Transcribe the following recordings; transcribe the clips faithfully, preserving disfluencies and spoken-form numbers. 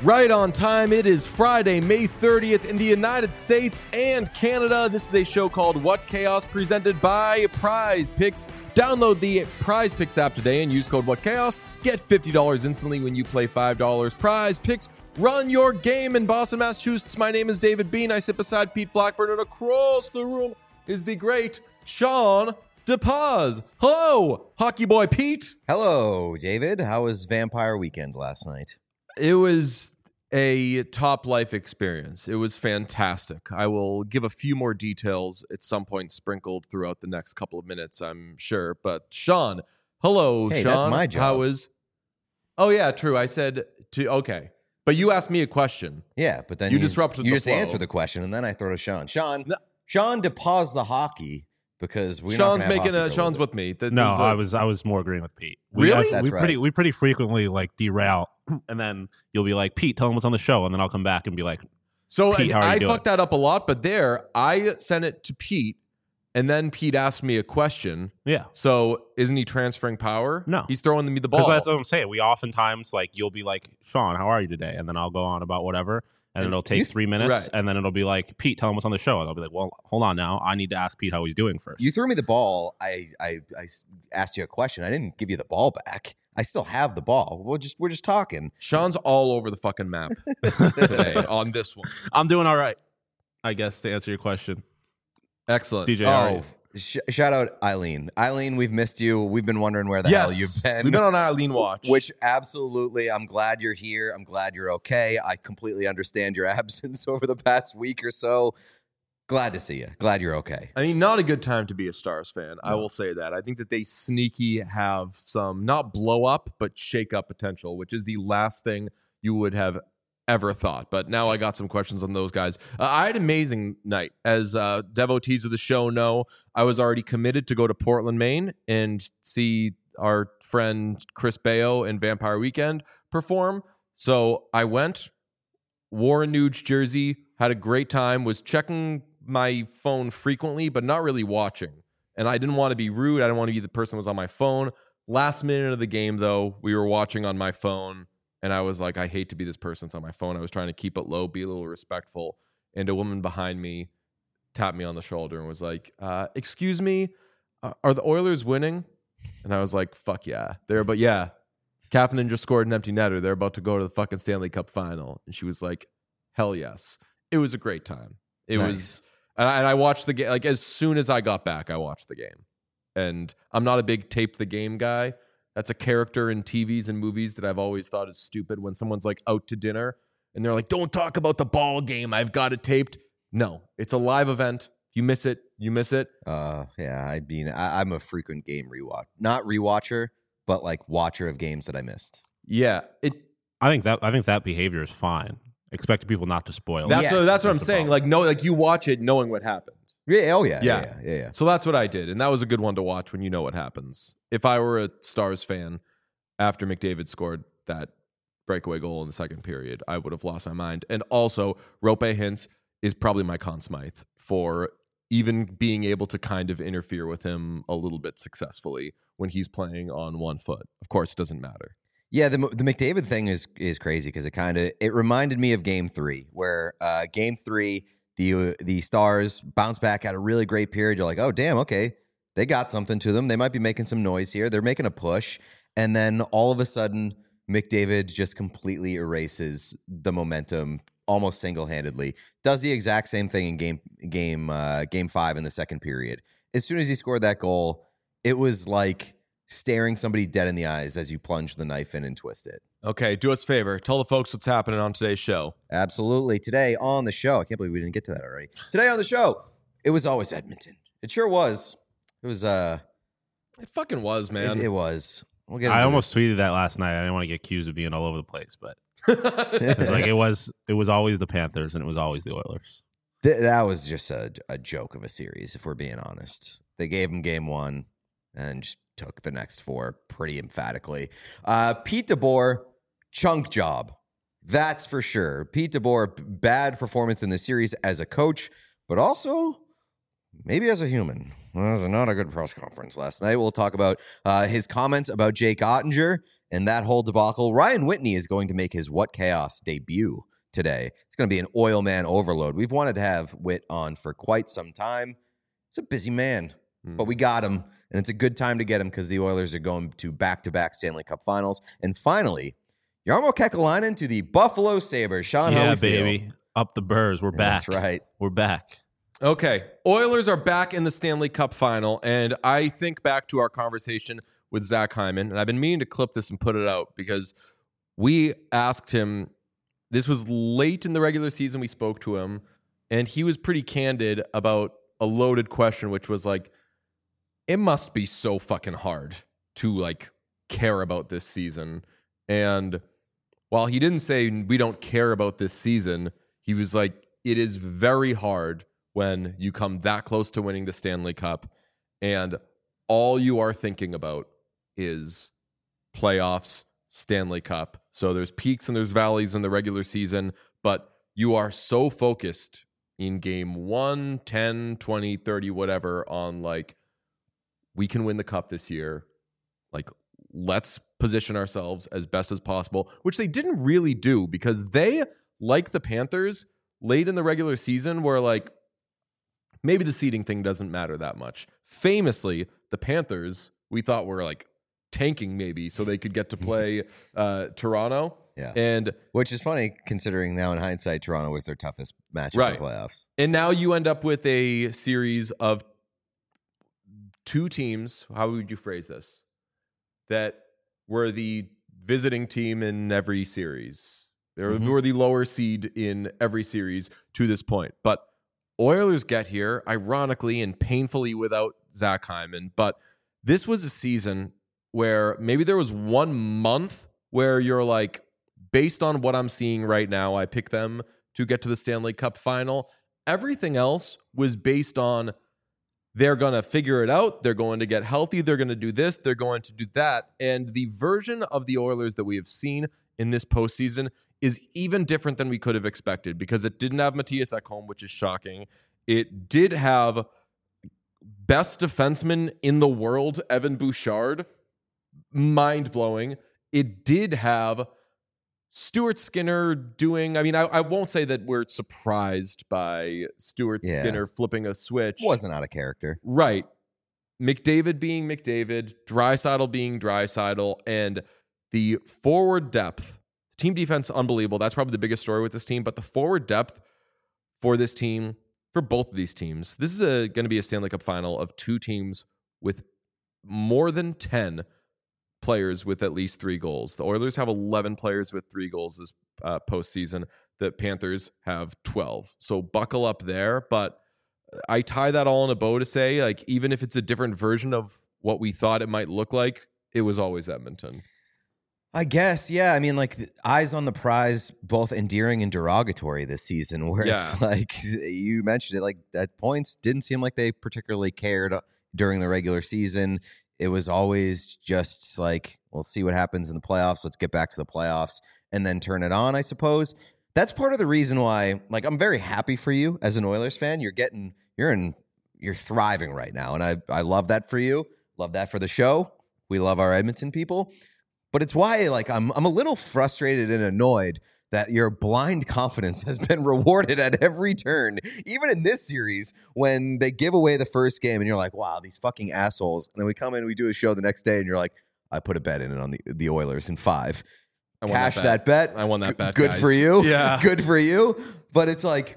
Right on time. It is Friday, May thirtieth in the United States and Canada. This is a show called What Chaos, presented by Prize Picks. Download the Prize Picks app today and use code What Chaos. Get fifty dollars instantly when you play five dollars. Prize Picks, run your game in Boston, Massachusetts. My name is David Bean. I sit beside Pete Blackburn, and across the room is the great Sean DePaz. Hello, hockey boy Pete. Hello, David. How was Vampire Weekend last night? It was a top life experience. It was fantastic. I will give a few more details at some point sprinkled throughout the next couple of minutes, I'm sure. But Sean, hello, hey, Sean. That's my job. How is? Oh yeah, true. I said to okay, but you asked me a question. Yeah, but then you, you disrupted. You the just flow. answered the question, and then I throw to Sean. Sean, no. Sean, to pause the hockey because we. Sean's making a. Sean's with me. That, no, a, I was. I was more agreeing with Pete. We, really? I, That's we right. pretty. We pretty frequently like derail, and then you'll be like, Pete, tell him what's on the show, and then I'll come back and be like, so Pete, I, I fucked that up a lot, but there I sent it to Pete. And then Pete asked me a question. Yeah. So isn't he transferring power? No. He's throwing me the ball. Because that's what I'm saying. We oftentimes, like, you'll be like, Sean, how are you today? And then I'll go on about whatever. And, and it'll take th- three minutes. Right. And then it'll be like, Pete, tell him what's on the show. And I'll be like, well, hold on now. I need to ask Pete how he's doing first. You threw me the ball. I, I, I asked you a question. I didn't give you the ball back. I still have the ball. We're just we're just talking. Sean's all over the fucking map today on this one. I'm doing all right, I guess, to answer your question. Excellent. D J, oh, sh- shout out Eileen. Eileen, we've missed you. We've been wondering where the yes. hell you've been. We've been on Eileen watch. Which absolutely, I'm glad you're here. I'm glad you're okay. I completely understand your absence over the past week or so. Glad to see you. Glad you're okay. I mean, not a good time to be a Stars fan. No. I will say that. I think that they sneaky have some, not blow up, but shake up potential, which is the last thing you would have ever thought. But now I got some questions on those guys. Uh, I had an amazing night. As uh, devotees of the show know, I was already committed to go to Portland, Maine and see our friend Chris Bayo and Vampire Weekend perform. So I went, wore a Nuge jersey, had a great time, was checking my phone frequently, but not really watching. And I didn't want to be rude. I didn't want to be the person who was on my phone. Last minute of the game, though, we were watching on my phone. And I was like, I hate to be this person that's on my phone. I was trying to keep it low, be a little respectful. And a woman behind me tapped me on the shoulder and was like, uh, excuse me, uh, are the Oilers winning? And I was like, fuck yeah. They're, but yeah, Kapanen just scored an empty netter. They're about to go to the fucking Stanley Cup final. And she was like, hell yes. It was a great time. It nice. was, and I, and I watched the game. Like as soon as I got back, I watched the game. And I'm not a big tape the game guy. That's a character in T Vs and movies that I've always thought is stupid when someone's like out to dinner and they're like, don't talk about the ball game. I've got it taped. No, it's a live event. You miss it. You miss it. Uh, yeah, I mean, I, I'm a frequent game rewatch. Not rewatcher, but like watcher of games that I missed. Yeah. It. I think that I think that behavior is fine. Expecting people not to spoil. That's yes, what, that's what I'm the saying. problem. Like, no, like you watch it knowing what happened. Yeah. Oh yeah. Yeah. Yeah. Yeah. yeah, yeah. So that's what I did. And that was a good one to watch when you know what happens. If I were a Stars fan after McDavid scored that breakaway goal in the second period, I would have lost my mind. And also, Rope Hintz is probably my Conn Smythe for even being able to kind of interfere with him a little bit successfully when he's playing on one foot. Of course, it doesn't matter. Yeah, the the McDavid thing is is crazy because it kind of it reminded me of Game Three, where uh, Game Three the the Stars bounce back at a really great period. You're like, oh damn, okay, they got something to them. They might be making some noise here. They're making a push, and then all of a sudden, McDavid just completely erases the momentum almost single handedly. Does the exact same thing in game game uh, game five in the second period. As soon as he scored that goal, it was like staring somebody dead in the eyes as you plunge the knife in and twist it. Okay, do us a favor. Tell the folks what's happening on today's show. Absolutely. Today on the show, I can't believe we didn't get to that already. Today on the show, it was always Edmonton. It sure was. It was, uh... It fucking was, man. It, it was. We'll get I into almost it. tweeted that last night. I didn't want to get accused of being all over the place, but it was like it was it was always the Panthers and it was always the Oilers. Th- that was just a, a joke of a series, if we're being honest. They gave him game one and just took the next four pretty emphatically. Uh, Pete DeBoer, chunk job. That's for sure. Pete DeBoer, bad performance in the series as a coach, but also maybe as a human. Well, that was not a good press conference last night. We'll talk about uh, his comments about Jake Ottinger and that whole debacle. Ryan Whitney is going to make his What Chaos debut today. It's going to be an oil man overload. We've wanted to have Whit on for quite some time. He's a busy man, mm. but we got him, and it's a good time to get him because the Oilers are going to back-to-back Stanley Cup Finals. And finally, Jarmo Kekalainen to the Buffalo Sabres. Sean, yeah, how we baby. feel? Up the Burrs. We're back. That's right. We're back. Okay. Oilers are back in the Stanley Cup Final, and I think back to our conversation with Zach Hyman, and I've been meaning to clip this and put it out because we asked him, this was late in the regular season, we spoke to him, and he was pretty candid about a loaded question, which was like, it must be so fucking hard to like care about this season. And while he didn't say we don't care about this season, he was like, it is very hard when you come that close to winning the Stanley Cup and all you are thinking about is playoffs, Stanley Cup. So there's peaks and there's valleys in the regular season, but you are so focused in game one, ten, twenty, thirty, whatever on like, we can win the cup this year. Like, let's position ourselves as best as possible, which they didn't really do because they, like the Panthers, late in the regular season were like, maybe the seeding thing doesn't matter that much. Famously, the Panthers, we thought were like tanking maybe so they could get to play uh, Toronto. Yeah. And which is funny considering now in hindsight, Toronto was their toughest match right. in the playoffs. And now you end up with a series of two teams. How would you phrase this? That were the visiting team in every series. They were, mm-hmm. were the lower seed in every series to this point. But Oilers get here, ironically and painfully without Zach Hyman. But this was a season where maybe there was one month where you're like, based on what I'm seeing right now, I pick them to get to the Stanley Cup Final. Everything else was based on they're going to figure it out. They're going to get healthy. They're going to do this. They're going to do that. And the version of the Oilers that we have seen in this postseason is even different than we could have expected because it didn't have Matthias Ekholm, which is shocking. It did have best defenseman in the world, Evan Bouchard. Mind-blowing. It did have Stuart Skinner doing, I mean, I, I won't say that we're surprised by Stuart yeah. Skinner flipping a switch. Wasn't out of character. Right. McDavid being McDavid, Draisaitl being Draisaitl, and the forward depth, team defense, unbelievable. That's probably the biggest story with this team, but the forward depth for this team, for both of these teams, this is going to be a Stanley Cup Final of two teams with more than ten players with at least three goals. The Oilers have eleven players with three goals this uh, postseason. The Panthers have twelve. So buckle up there. But I tie that all in a bow to say, like, even if it's a different version of what we thought it might look like, it was always Edmonton. I guess, yeah. I mean, like, eyes on the prize, both endearing and derogatory this season, where yeah. it's like, you mentioned it, like, at points, didn't seem like they particularly cared during the regular season. It was always just like, we'll see what happens in the playoffs. Let's get back to the playoffs and then turn it on, I suppose. That's part of the reason why, like, I'm very happy for you as an Oilers fan. You're getting, you're in, you're thriving right now. And I, I love that for you. Love that for the show. We love our Edmonton people. But it's why, like, I'm, I'm a little frustrated and annoyed that your blind confidence has been rewarded at every turn, even in this series when they give away the first game and you're like, wow, these fucking assholes. And then we come in and we do a show the next day and you're like, I put a bet in it on the, the Oilers in five. I won Cash that bet. that bet. I won that bet, Good guys. for you. Yeah. Good for you. But it's like,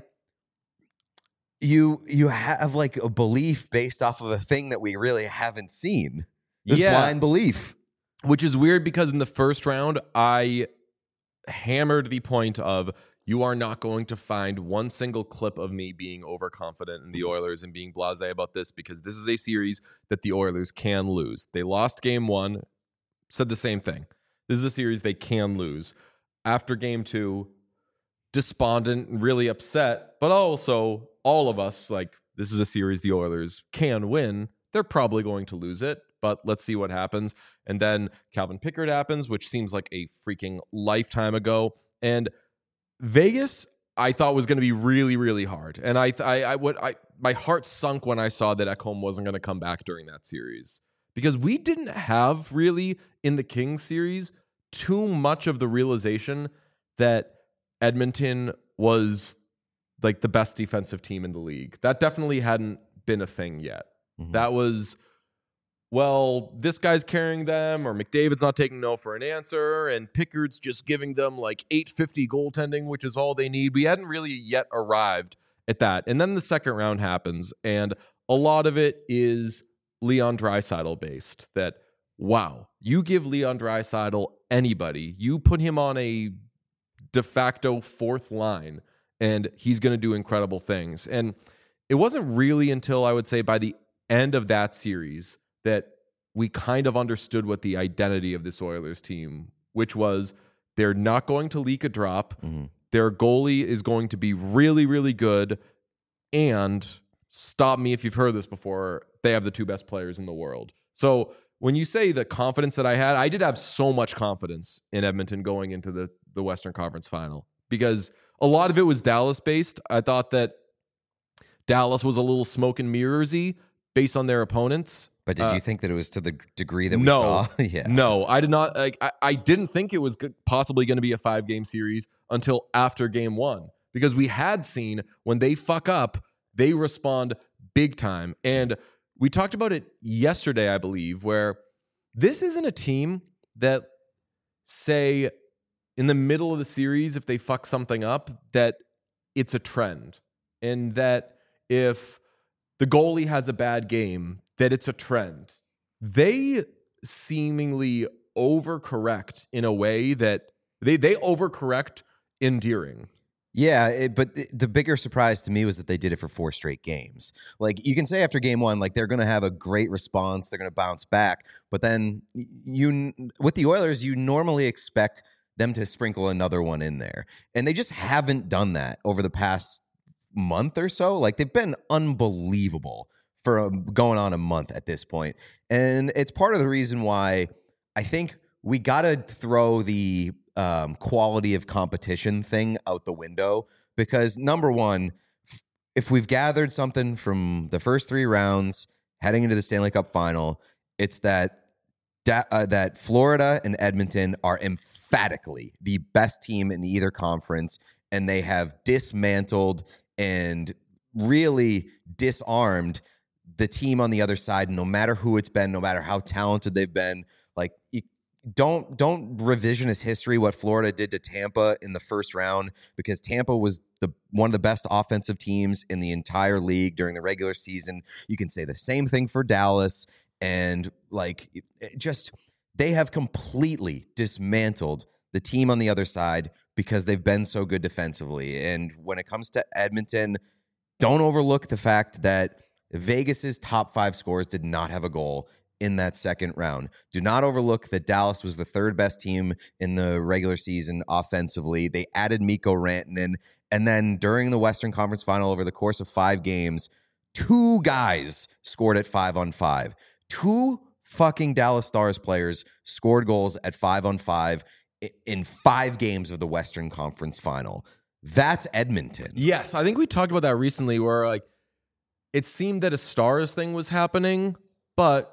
you you have like a belief based off of a thing that we really haven't seen. This yeah. blind belief. Which is weird because in the first round, I hammered the point of you are not going to find one single clip of me being overconfident in the Oilers and being blasé about this because this is a series that the Oilers can lose. They lost game one, said the same thing. This is a series they can lose. After game two, despondent and really upset, but also all of us, like, this is a series the Oilers can win. They're probably going to lose it, but let's see what happens. And then Calvin Pickard happens, which seems like a freaking lifetime ago. And Vegas, I thought was going to be really, really hard. And I, I, I, what I, my heart sunk when I saw that Ekholm wasn't going to come back during that series because we didn't have really in the Kings series too much of the realization that Edmonton was like the best defensive team in the league. That definitely hadn't been a thing yet. Mm-hmm. That was, well, this guy's carrying them, or McDavid's not taking no for an answer, and Pickard's just giving them like eight fifty goaltending, which is all they need. We hadn't really yet arrived at that. And then the second round happens, and a lot of it is Leon Draisaitl based. That, wow, you give Leon Draisaitl anybody, you put him on a de facto fourth line, and he's going to do incredible things. And it wasn't really until I would say by the end of that series that we kind of understood what the identity of this Oilers team, which was they're not going to leak a drop. Mm-hmm. Their goalie is going to be really, really good. And stop me if you've heard this before, they have the two best players in the world. So when you say the confidence that I had, I did have so much confidence in Edmonton going into the, the Western Conference Final, because a lot of it was Dallas-based. I thought that Dallas was a little smoke and mirrors-y based on their opponents. But did uh, you think that it was to the degree that we no, saw? yeah. No, I did not. Like, I, I didn't think it was good, possibly going to be a five-game series until after game one, because we had seen when they fuck up, they respond big time. And we talked about it yesterday, I believe, where this isn't a team that, say, in the middle of the series, if they fuck something up, that it's a trend. And that if the goalie has a bad game, that it's a trend. They seemingly overcorrect in a way that they, they overcorrect endearing. Yeah, it, but the bigger surprise to me was that they did it for four straight games. Like, you can say after game one, like, they're going to have a great response, they're going to bounce back, but then you, with the Oilers, you normally expect them to sprinkle another one in there, and they just haven't done that over the past month or so. Like, they've been unbelievable for a, going on a month at this point, and it's part of the reason why I think we got to throw the Um, quality of competition thing out the window, because number one, if we've gathered something from the first three rounds heading into the Stanley Cup final, it's that da- uh, that Florida and Edmonton are emphatically the best team in either conference, and they have dismantled and really disarmed the team on the other side, no matter who it's been, no matter how talented they've been. Like, you, Don't don't revisionist history what Florida did to Tampa in the first round, because Tampa was the one of the best offensive teams in the entire league during the regular season. You can say the same thing for Dallas, and like it just they have completely dismantled the team on the other side because they've been so good defensively. And when it comes to Edmonton, don't overlook the fact that Vegas's top five scorers did not have a goal in that second round. Do not overlook that Dallas was the third best team in the regular season offensively. They added Mikko Rantanen, and then during the Western Conference Final, over the course of five games, two guys scored at five on five. Two fucking Dallas Stars players scored goals at five on five in five games of the Western Conference Final. That's Edmonton. Yes, I think we talked about that recently, where like it seemed that a Stars thing was happening, but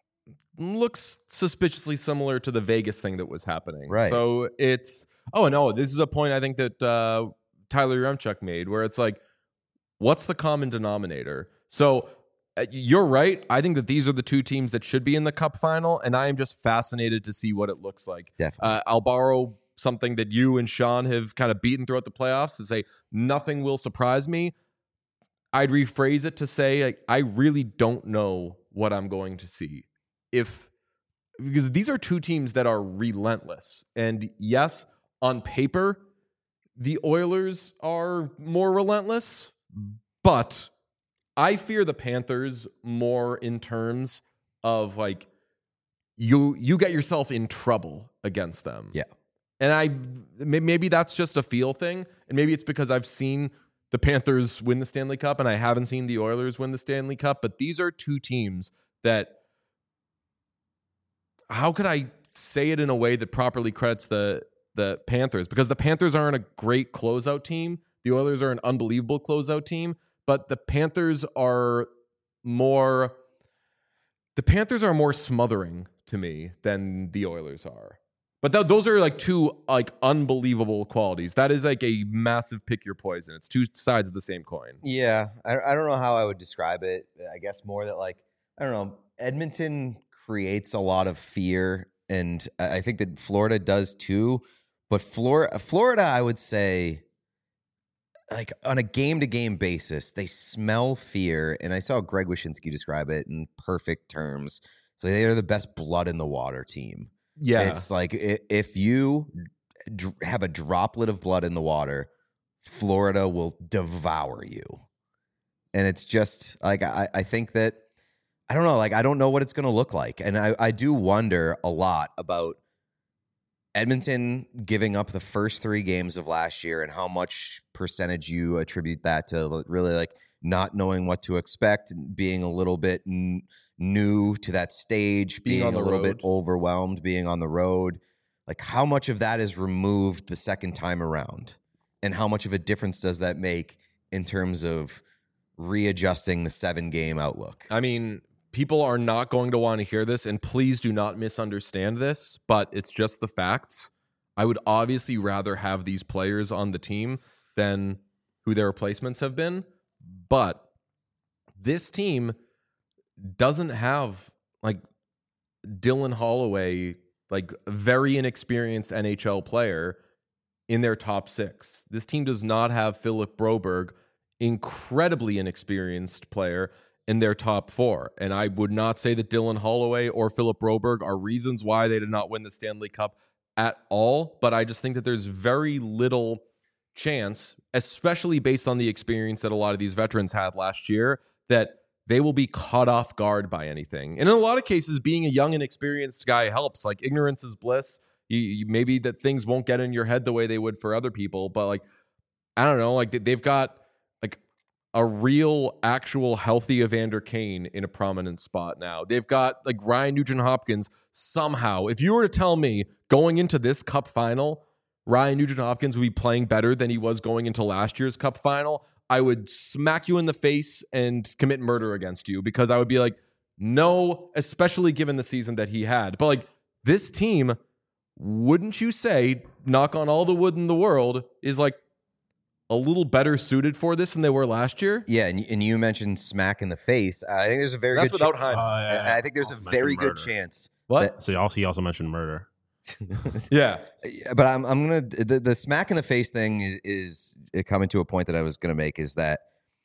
looks suspiciously similar to the Vegas thing that was happening. Right. So it's, oh, no, this is a point I think that uh, Tyler Yaremchuk made, where it's like, what's the common denominator? So uh, you're right. I think that these are the two teams that should be in the Cup final, and I am just fascinated to see what it looks like. Definitely. Uh, I'll borrow something that you and Sean have kind of beaten throughout the playoffs to say nothing will surprise me. I'd rephrase it to say, like, I really don't know what I'm going to see. If because these are two teams that are relentless. And yes, on paper, the Oilers are more relentless, but I fear the Panthers more in terms of like you you get yourself in trouble against them. Yeah. And I maybe that's just a feel thing, and maybe it's because I've seen the Panthers win the Stanley Cup and I haven't seen the Oilers win the Stanley Cup, but these are two teams that, how could I say it in a way that properly credits the the Panthers? Because the Panthers aren't a great closeout team. The Oilers are an unbelievable closeout team, but the Panthers are more the Panthers are more smothering to me than the Oilers are. But th- those are like two like unbelievable qualities. That is like a massive pick your poison. It's two sides of the same coin. Yeah, I, I don't know how I would describe it. I guess more that like, I don't know, Edmonton creates a lot of fear, and I think that Florida does too. But Florida, Florida, I would say, like on a game-to-game basis, they smell fear. And I saw Greg Wyshynski describe it in perfect terms. So they are the best blood in the water team. Yeah. It's like if you have a droplet of blood in the water, Florida will devour you. And it's just like, I, I think that, I don't know, like, I don't know what it's going to look like. And I, I do wonder a lot about Edmonton giving up the first three games of last year and how much percentage you attribute that to really like not knowing what to expect, being a little bit n- new to that stage, being, being a little road. bit overwhelmed, being on the road. Like how much of that is removed the second time around? And how much of a difference does that make in terms of readjusting the seven game outlook? I mean, people are not going to want to hear this, and please do not misunderstand this, but it's just the facts. I would obviously rather have these players on the team than who their replacements have been. But this team doesn't have like Dylan Holloway, like a very inexperienced N H L player in their top six. This team does not have Philip Broberg, incredibly inexperienced player, in their top four. And I would not say that Dylan Holloway or Philip Broberg are reasons why they did not win the Stanley Cup at all. But I just think that there's very little chance, especially based on the experience that a lot of these veterans had last year, that they will be caught off guard by anything. And in a lot of cases, being a young and experienced guy helps. Like, ignorance is bliss. You, you, maybe that things won't get in your head the way they would for other people. But, like, I don't know. Like, they've got, like, a real, actual, healthy Evander Kane in a prominent spot now. They've got, like, Ryan Nugent-Hopkins somehow. If you were to tell me going into this Cup final, Ryan Nugent-Hopkins would be playing better than he was going into last year's Cup final, I would smack you in the face and commit murder against you, because I would be like, no, especially given the season that he had. But, like, this team, wouldn't you say, knock on all the wood in the world, is, like, a little better suited for this than they were last year? Yeah, and, and you mentioned smack in the face. I think there's a very That's good without ch- Heim. Uh, yeah, I, I think there's a very good chance. What? That, So he also, he also mentioned murder. Yeah. But I'm I'm gonna the, the smack in the face thing is, is coming to a point that I was gonna make, is that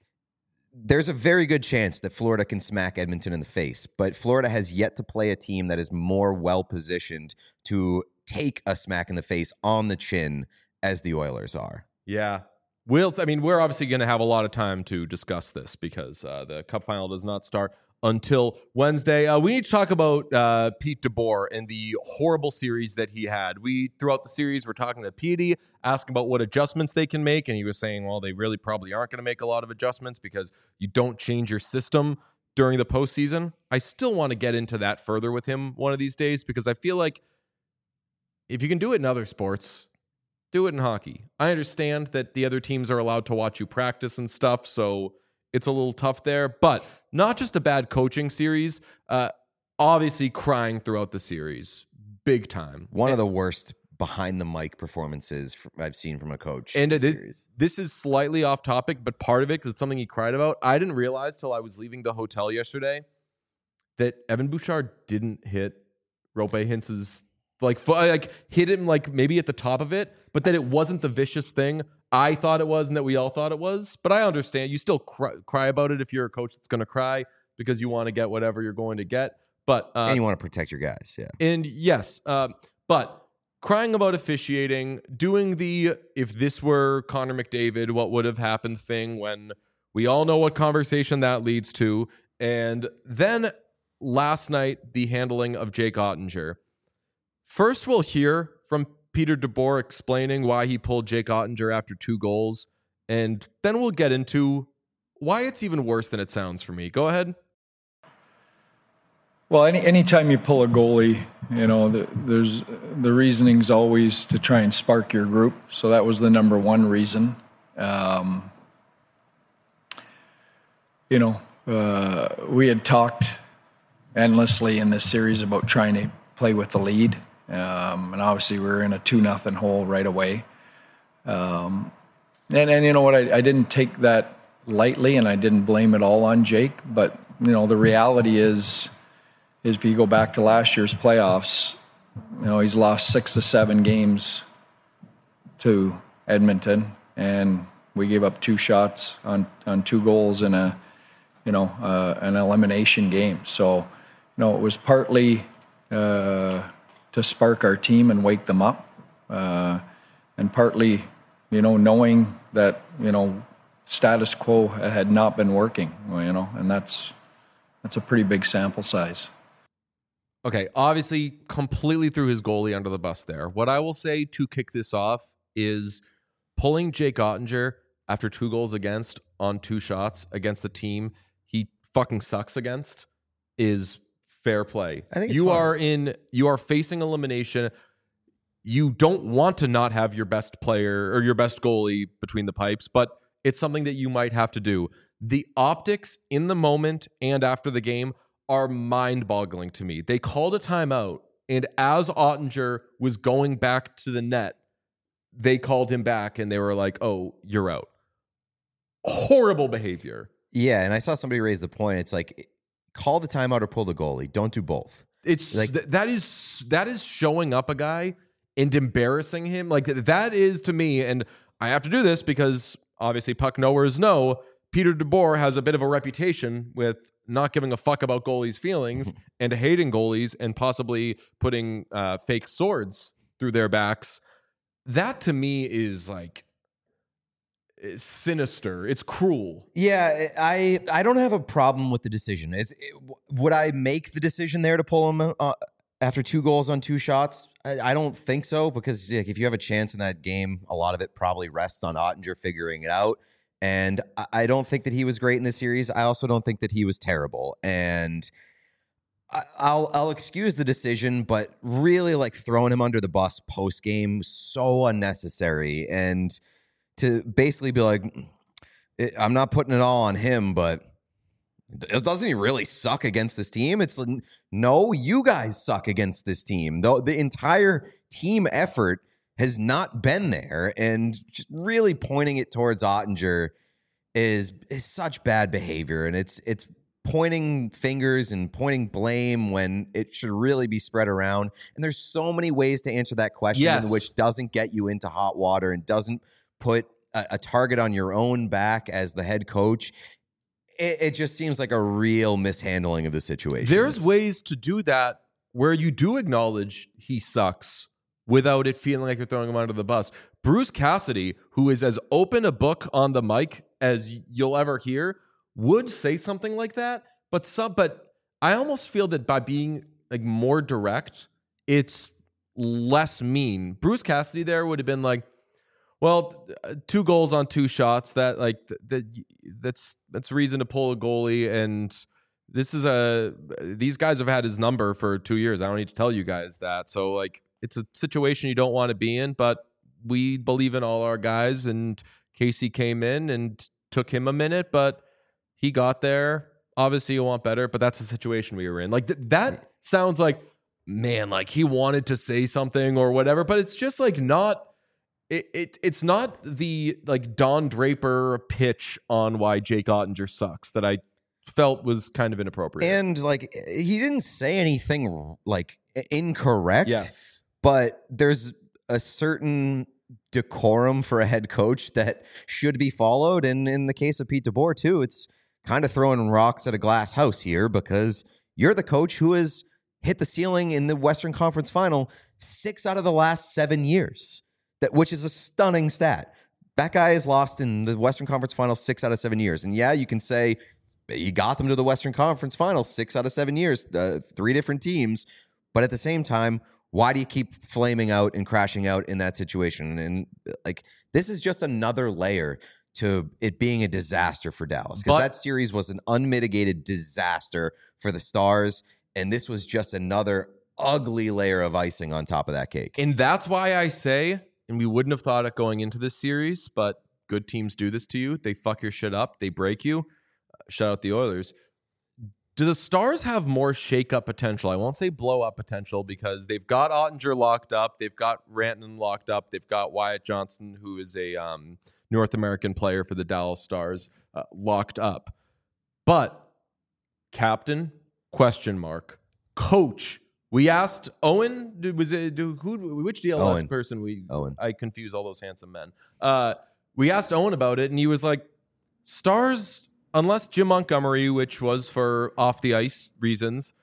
there's a very good chance that Florida can smack Edmonton in the face, but Florida has yet to play a team that is more well positioned to take a smack in the face on the chin as the Oilers are. Yeah. We'll, I mean, we're obviously going to have a lot of time to discuss this, because uh, the Cup final does not start until Wednesday. Uh, we need to talk about uh, Pete DeBoer and the horrible series that he had. We, throughout the series, we're talking to Petey, asking about what adjustments they can make, and he was saying, well, they really probably aren't going to make a lot of adjustments because you don't change your system during the postseason. I still want to get into that further with him one of these days, because I feel like if you can do it in other sports, do it in hockey. I understand that the other teams are allowed to watch you practice and stuff, so it's a little tough there. But not just a bad coaching series, uh, obviously crying throughout the series, big time. One and, of the worst behind the mic performances I've seen from a coach. And in it, series. This is slightly off topic, but part of it, because it's something he cried about, I didn't realize till I was leaving the hotel yesterday that Evan Bouchard didn't hit Rope Hintz's like like hit him like maybe at the top of it, but that it wasn't the vicious thing I thought it was and that we all thought it was. But I understand you still cry, cry about it if you're a coach that's going to cry because you want to get whatever you're going to get. But uh, and you want to protect your guys, yeah. And yes, um, but crying about officiating, doing the if this were Connor McDavid, what would have happened thing, when we all know what conversation that leads to. And then last night, the handling of Jake Ottinger. First, we'll hear from Peter DeBoer explaining why he pulled Jake Ottinger after two goals, and then we'll get into why it's even worse than it sounds for me. Go ahead. Well, any anytime you pull a goalie, you know, the, there's the reasoning's always to try and spark your group. So that was the number one reason. Um, you know, uh, we had talked endlessly in this series about trying to play with the lead. Um, and obviously we were in a two nothing hole right away. Um, and, and you know what, I, I didn't take that lightly, and I didn't blame it all on Jake, but you know, the reality is, is if you go back to last year's playoffs, you know, he's lost six to seven games to Edmonton, and we gave up two shots on, on two goals in a, you know, uh, an elimination game. So, you know, it was partly uh, to spark our team and wake them up, uh, and partly, you know, knowing that, you know, status quo had not been working, you know, and that's that's a pretty big sample size. Okay, obviously completely threw his goalie under the bus there. What I will say to kick this off is pulling Jake Oettinger after two goals against on two shots against the team he fucking sucks against is fair play. I think it's you fun. are in you are facing elimination. You don't want to not have your best player or your best goalie between the pipes, but it's something that you might have to do. The optics in the moment and after the game are mind-boggling to me. They called a timeout, and as Oettinger was going back to the net, they called him back, and they were like, oh, you're out. Horrible behavior. Yeah, and I saw somebody raise the point. It's like, call the timeout or pull the goalie. Don't do both. It's Like- th- that is that is showing up a guy and embarrassing him. Like that is to me, and I have to do this because obviously puck knowers know Peter DeBoer has a bit of a reputation with not giving a fuck about goalies' feelings and hating goalies and possibly putting uh, fake swords through their backs. That to me is like is sinister. It's cruel. Yeah, I I don't have a problem with the decision. It's it, would I make the decision there to pull him uh, after two goals on two shots? I, I don't think so, because like, if you have a chance in that game, a lot of it probably rests on Oettinger figuring it out. And I, I don't think that he was great in this series. I also don't think that he was terrible. And I, I'll I'll excuse the decision, but really like throwing him under the bus post game, so unnecessary. And to basically be like, I'm not putting it all on him, but doesn't he really suck against this team? It's like, no, you guys suck against this team. Though the entire team effort has not been there, and just really pointing it towards Oettinger is is such bad behavior, and it's it's pointing fingers and pointing blame when it should really be spread around. And there's so many ways to answer that question, Yes. which doesn't get you into hot water and doesn't put a, a target on your own back as the head coach. It, it just seems like a real mishandling of the situation. There's ways to do that where you do acknowledge he sucks without it feeling like you're throwing him under the bus. Bruce Cassidy, who is as open a book on the mic as you'll ever hear, would say something like that. But some, but I almost feel that by being like more direct, it's less mean. Bruce Cassidy there would have been like, well, two goals on two shots. That like that that's that's reason to pull a goalie. And this is a these guys have had his number for two years. I don't need to tell you guys that. So like, it's a situation you don't want to be in. But we believe in all our guys. And Casey came in and took him a minute, but he got there. Obviously, you want better, but that's the situation we were in. Like th- that sounds like, man, like he wanted to say something or whatever. But it's just like not. It, it it's not the like Don Draper pitch on why Jake Oettinger sucks that I felt was kind of inappropriate. And like he didn't say anything like incorrect. Yes. But there's a certain decorum for a head coach that should be followed. And in the case of Pete DeBoer too, it's kind of throwing rocks at a glass house here, because you're the coach who has hit the ceiling in the Western Conference Final six out of the last seven years. That, which is a stunning stat. That guy has lost in the Western Conference Final six out of seven years. And yeah, you can say you got them to the Western Conference Final six out of seven years, uh, three different teams. But at the same time, why do you keep flaming out and crashing out in that situation? And like, this is just another layer to it being a disaster for Dallas, because But- that series was an unmitigated disaster for the Stars. And this was just another ugly layer of icing on top of that cake. And that's why I say, and we wouldn't have thought it going into this series, but good teams do this to you. They fuck your shit up. They break you. Uh, shout out the Oilers. Do the Stars have more shake-up potential? I won't say blow-up potential because they've got Ottinger locked up. They've got Rantanen locked up. They've got Wyatt Johnson, who is a um, North American player for the Dallas Stars, uh, locked up. But captain, question mark. Coach, we asked Owen, was it who? Which D L S Owen. person? We Owen. I confuse all those handsome men. Uh, we asked Owen about it, and he was like, Stars... Unless Jim Montgomery, which was for off the ice reasons,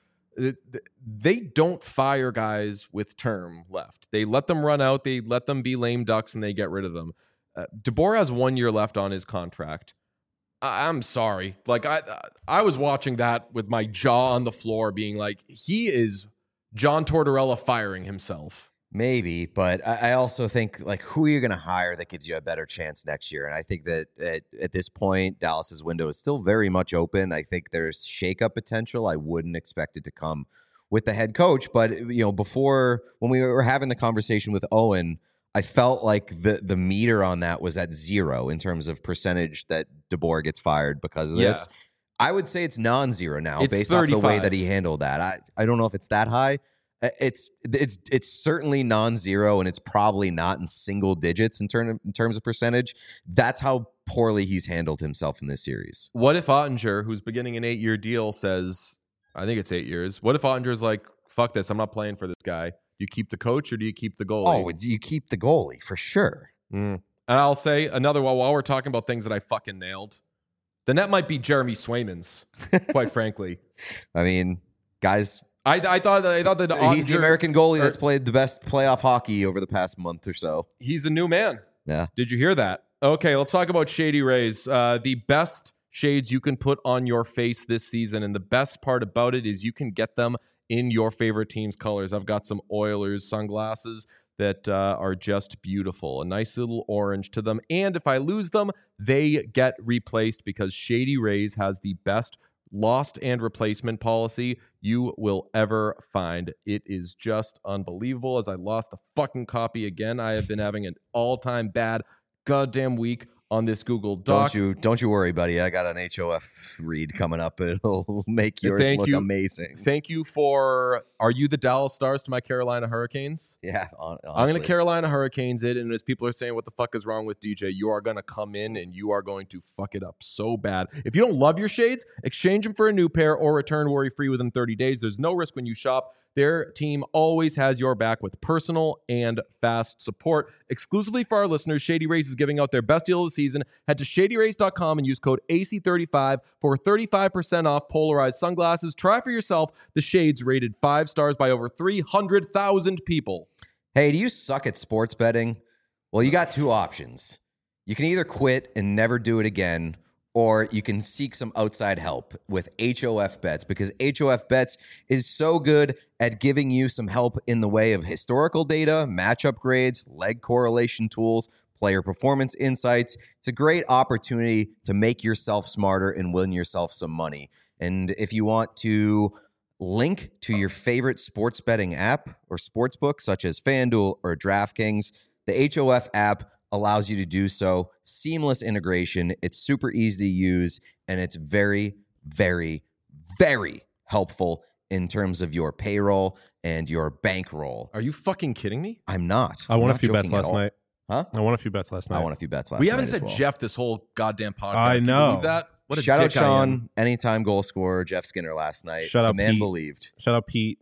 they don't fire guys with term left. They let them run out, they let them be lame ducks, and they get rid of them. Uh, DeBoer has one year left on his contract. I- I'm sorry. Like I, I was watching that with my jaw on the floor, being like, he is John Tortorella firing himself. Maybe, but I I also think, like, who are you going to hire that gives you a better chance next year? And I think that at, at this point, Dallas's window is still very much open. I think there's shakeup potential. I wouldn't expect it to come with the head coach, but you know, before when we were having the conversation with Owen, I felt like the the meter on that was at zero in terms of percentage that DeBoer gets fired because of Yeah. this. I would say it's non-zero now, It's based off the way thirty-five. that he handled that. I I don't know if it's that high. It's it's it's certainly non-zero, and it's probably not in single digits in term in terms of percentage. That's how poorly he's handled himself in this series. What if Ottinger, who's beginning an eight-year deal, says, I think it's eight years. What if Ottinger's like, fuck this, I'm not playing for this guy. Do you keep the coach or do you keep the goalie? Oh, it's, you keep the goalie for sure. Mm. And I'll say another one while we're talking about things that I fucking nailed. The net might be Jeremy Swayman's, quite frankly. I mean, guys, I, I thought I thought that he's the Ottinger- American goalie or- that's played the best playoff hockey over the past month or so. He's a new man. Yeah. Did you hear that? Okay, let's talk about Shady Rays. Uh, the best shades you can put on your face this season, and the best part about it is you can get them in your favorite team's colors. I've got some Oilers sunglasses that uh, are just beautiful. A nice little orange to them. And if I lose them, they get replaced because Shady Rays has the best lost and replacement policy you will ever find. It is just unbelievable. As I lost the fucking copy again, I have been having an all-time bad goddamn week on this Google Doc. Don't you don't you worry, buddy. I got an H O F read coming up, and it'll make yours Thank look you. amazing. Thank you for, are you the Dallas Stars to my Carolina Hurricanes? Yeah, hon- I'm honestly. going to Carolina Hurricanes it, and as people are saying, what the fuck is wrong with D J? You are going to come in and you are going to fuck it up so bad. If you don't love your shades, exchange them for a new pair or return worry-free within thirty days. There's no risk when you shop. Their team always has your back with personal and fast support. Exclusively for our listeners, Shady Rays is giving out their best deal of the season. Head to shady rays dot com and use code A C thirty-five for thirty-five percent off polarized sunglasses. Try for yourself the shades rated five stars by over three hundred thousand people. Hey, do you suck at sports betting? Well, you got two options. You can either quit and never do it again, or you can seek some outside help with H O F Bets, because H O F Bets is so good at giving you some help in the way of historical data, matchup grades, leg correlation tools, player performance insights. It's a great opportunity to make yourself smarter and win yourself some money. And if you want to link to your favorite sports betting app or sportsbook, such as FanDuel or DraftKings, the H O F app allows you to do so. Seamless integration. It's super easy to use, and it's very, very, very helpful in terms of your payroll and your bankroll. Are you fucking kidding me? I'm not. I I'm won a not few bets joking at last all. night. Huh? I won a few bets last night. I won a few bets last we night haven't as said well. Jeff this whole goddamn podcast. I Can you know. believe that? What a Shout out dick I am. Sean, anytime goal scorer, Jeff Skinner last night. Shout the out man Pete. believed. Shout out Pete,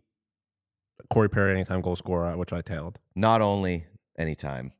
Corey Perry, anytime goal scorer, which I tailed. Not only anytime.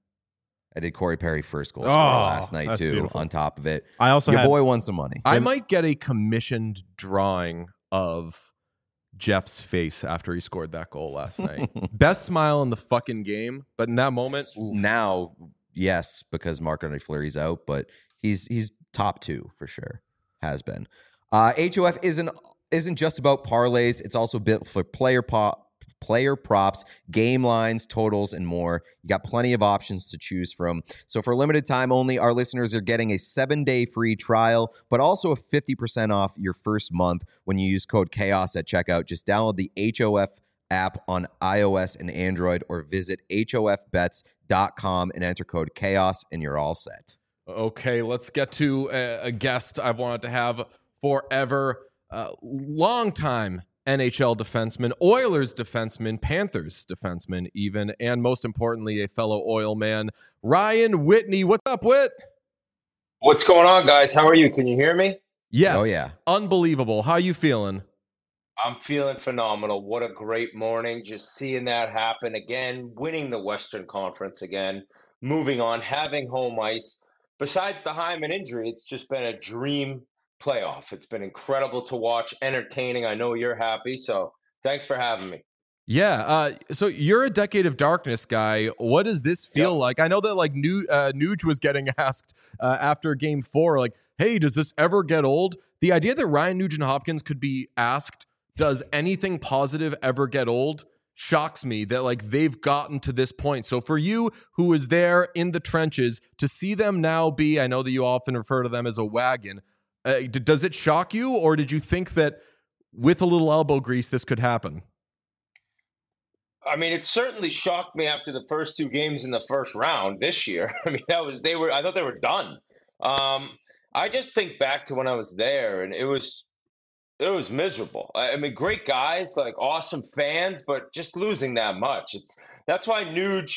I did Corey Perry first goal Oh, scorer last night that's too. beautiful. On top of it, I also your had boy won some money. I might get a commissioned drawing of Jeff's face after he scored that goal last night. Best smile in the fucking game, but in that moment, oof. Now, yes, because Marc-Andre Fleury's out, but he's he's top two for sure. Has been. Uh, H O F isn't isn't just about parlays. It's also built for player pop. Player props, game lines, totals, and more. You got plenty of options to choose from. So for limited time only, our listeners are getting a seven-day free trial, but also a fifty percent off your first month when you use code CHAOS at checkout. Just download the H O F app on iOS and Android, or visit H O F bets dot com and enter code CHAOS, and you're all set. Okay, let's get to a, a guest I've wanted to have forever. uh, longtime N H L defenseman, Oilers defenseman, Panthers defenseman even, and most importantly, a fellow Oil man, Ryan Whitney. What's up, Whit? What's going on, guys? How are you? Can you hear me? Yes. Oh, yeah. Unbelievable. How you feeling? I'm feeling phenomenal. What a great morning. Just seeing that happen again, winning the Western Conference again, moving on, having home ice. Besides the Hyman injury, it's just been a dream playoff. It's been incredible to watch, entertaining. I know you're happy, so thanks for having me. Yeah. Uh, so you're a Decade of Darkness guy. What does this feel Yep. like? I know that like New, uh, Nuge was getting asked uh, after game four, like, hey, does this ever get old? The idea that Ryan Nugent-Hopkins could be asked, does anything positive ever get old, shocks me that like they've gotten to this point. So for you who was there in the trenches to see them now be, I know that you often refer to them as a wagon. Uh, d- does it shock you, or did you think that with a little elbow grease, this could happen? I mean, it certainly shocked me after the first two games in the first round this year. I mean, that was they were. I thought they were done. Um, I just think back to when I was there, and it was it was miserable. I, I mean, great guys, like awesome fans, but just losing that much. It's that's why Nuge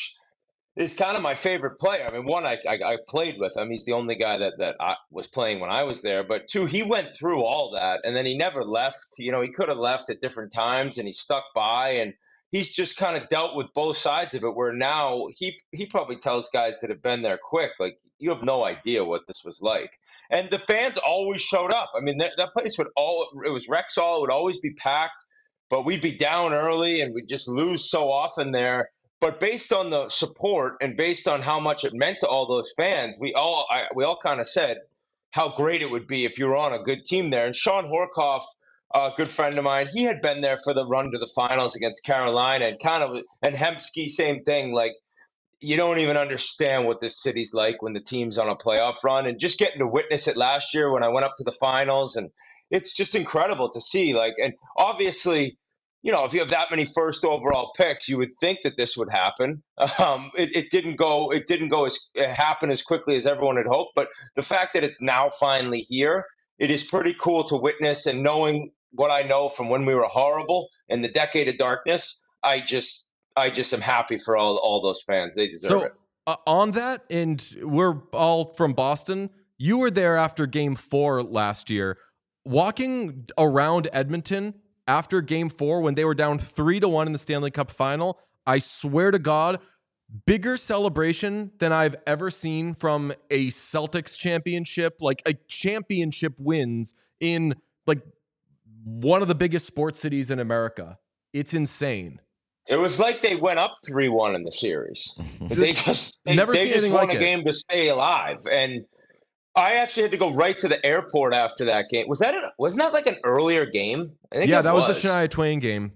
is kind of my favorite player. I mean, one, I, I I played with him. He's the only guy that that I was playing when I was there. But two, he went through all that, and then he never left. You know, he could have left at different times, and he stuck by, and he's just kind of dealt with both sides of it. Where now he he probably tells guys that have been there quick, like, you have no idea what this was like. And the fans always showed up. I mean, that, that place would all it was Rexall. It would always be packed, but we'd be down early, and we'd just lose so often there. But based on the support and based on how much it meant to all those fans, we all I, we all kind of said how great it would be if you were on a good team there. And Sean Horkoff, a good friend of mine, he had been there for the run to the finals against Carolina, and kind of and Hemsky, same thing. Like, you don't even understand what this city's like when the team's on a playoff run, and just getting to witness it last year when I went up to the finals, and it's just incredible to see. Like, and obviously, you know, if you have that many first overall picks, you would think that this would happen. Um, it, it didn't go. It didn't go as happen as quickly as everyone had hoped. But the fact that it's now finally here, it is pretty cool to witness. And knowing what I know from when we were horrible and the Decade of Darkness, I just, I just am happy for all all those fans. They deserve So it. uh, on that, and we're all from Boston. You were there after game four last year. Walking around Edmonton after game four when they were down three to one in the Stanley Cup final, I swear to God, bigger celebration than I've ever seen from a Celtics championship, like a championship wins in like one of the biggest sports cities in America. It's insane. It was like they went up three one in the series. They just they, Never they seen just anything won like a it. game to stay alive. And I actually had to go right to the airport after that game. Was that an, wasn't that like an earlier game? I think Yeah, it that was. was the Shania Twain game.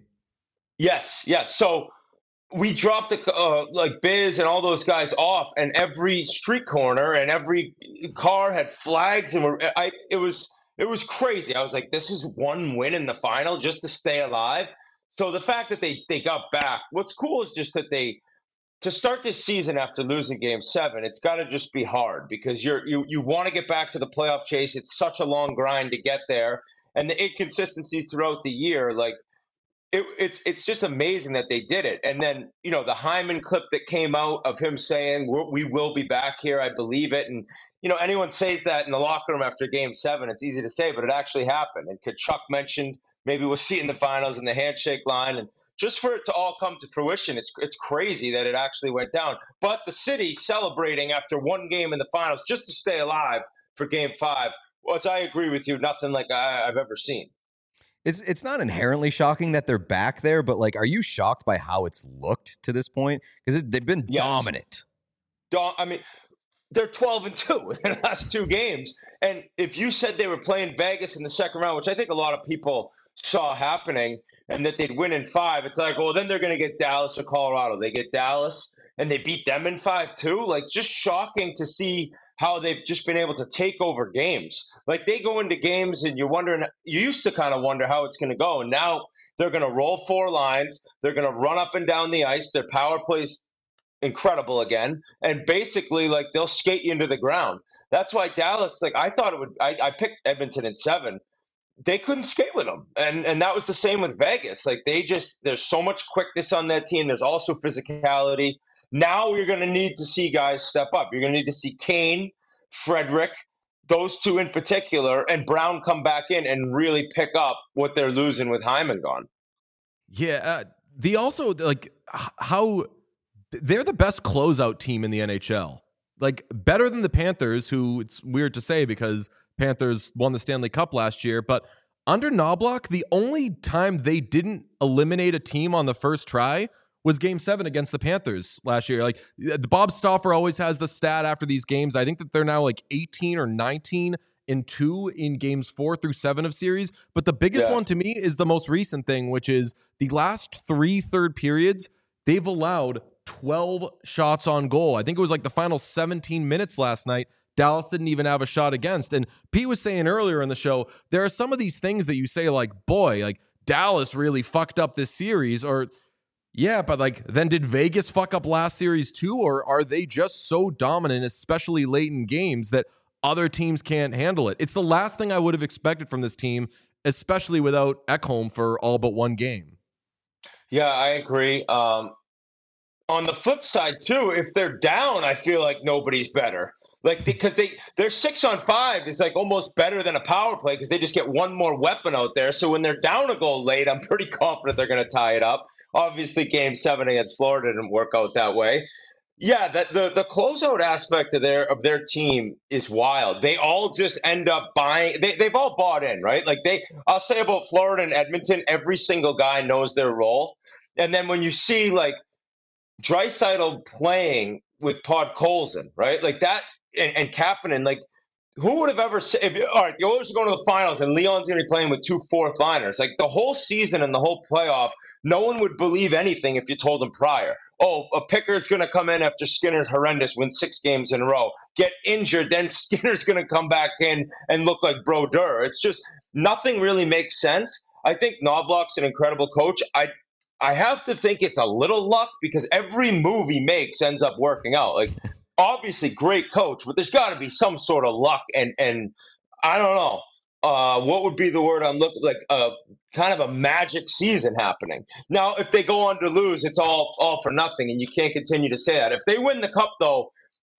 Yes, yes. So we dropped the, uh, like Biz and all those guys off, and every street corner and every car had flags, and we're, I it was it was crazy. I was like, this is one win in the final just to stay alive. So the fact that they they got back, what's cool is just that they to start this season after losing game seven, it's got to just be hard because you're you you want to get back to the playoff chase. It's such a long grind to get there, and the inconsistencies throughout the year, like. It, it's it's just amazing that they did it. And then, you know, the Hyman clip that came out of him saying, We're, we will be back here, I believe it. And, you know, anyone says that in the locker room after game seven, it's easy to say, but it actually happened. And Kachuk mentioned maybe we'll see in the finals in the handshake line. And just for it to all come to fruition, it's it's crazy that it actually went down. But the city celebrating after one game in the finals just to stay alive for game five was, I agree with you, nothing like I, I've ever seen. It's it's not inherently shocking that they're back there, but like, are you shocked by how it's looked to this point? Because they've been Yes. dominant. I mean, they're twelve and two in the last two games. And if you said they were playing Vegas in the second round, which I think a lot of people saw happening, and that they'd win in five, it's like, well, then they're going to get Dallas or Colorado. They get Dallas, and they beat them in five too. Like, just shocking to see how they've just been able to take over games. Like, they go into games and you're wondering, you used to kind of wonder how it's going to go. And now they're going to roll four lines. They're going to run up and down the ice. Their power play's incredible again. And basically, like, they'll skate you into the ground. That's why Dallas, like, I thought it would, I, I picked Edmonton in seven. they couldn't skate with them. And and that was the same with Vegas. Like they just, there's so much quickness on that team. There's also physicality. Now you're going to need to see guys step up. You're going to need to see Kane, Frederick, those two in particular, and Brown come back in and really pick up what they're losing with Hyman gone. Yeah. Uh, the also, like, how they're the best closeout team in the N H L. Like, better than the Panthers, who it's weird to say because Panthers won the Stanley Cup last year, but under Knoblauch, the only time they didn't eliminate a team on the first try was game seven against the Panthers last year. Like, the Bob Stauffer always has the stat after these games. I think that they're now like eighteen or nineteen and two in games four through seven of series. But the biggest Yeah. one to me is the most recent thing, which is the last three third periods, they've allowed twelve shots on goal. I think it was like the final seventeen minutes last night. Dallas didn't even have a shot against. And Pete was saying earlier in the show, there are some of these things that you say like, boy, like Dallas really fucked up this series, or yeah, but like then did Vegas fuck up last series too? Or are they just so dominant, especially late in games, that other teams can't handle it? It's the last thing I would have expected from this team, especially without Ekholm for all but one game. Yeah, I agree. Um, on the flip side too, if they're down, I feel like nobody's better. Like, because they, they're six on five is like almost better than a power play because they just get one more weapon out there. So when they're down a goal late, I'm pretty confident they're going to tie it up. Obviously, game seven against Florida didn't work out that way. Yeah, that the the closeout aspect of their of their team is wild. They all just end up buying. They they've all bought in, right? Like they, I'll say about Florida and Edmonton, every single guy knows their role. And then when you see like Draisaitl playing with Podkolzin, right? Like that. And, and Kapanen, like, who would have ever said, if, all right, the Oilers are going to the finals and Leon's going to be playing with two fourth liners. Like, the whole season and the whole playoff, no one would believe anything if you told them prior. Oh, a Pickard's going to come in after Skinner's horrendous, win six games in a row, get injured, then Skinner's going to come back in and look like Brodeur. It's just, nothing really makes sense. I think Knoblauch's an incredible coach. I I have to think it's a little luck because every move he makes ends up working out. Like, obviously great coach, but there's got to be some sort of luck and and I don't know uh, what would be the word I'm looking like a kind of a magic season happening. Now, if they go on to lose, it's all all for nothing, and you can't continue to say that. If they win the cup, though,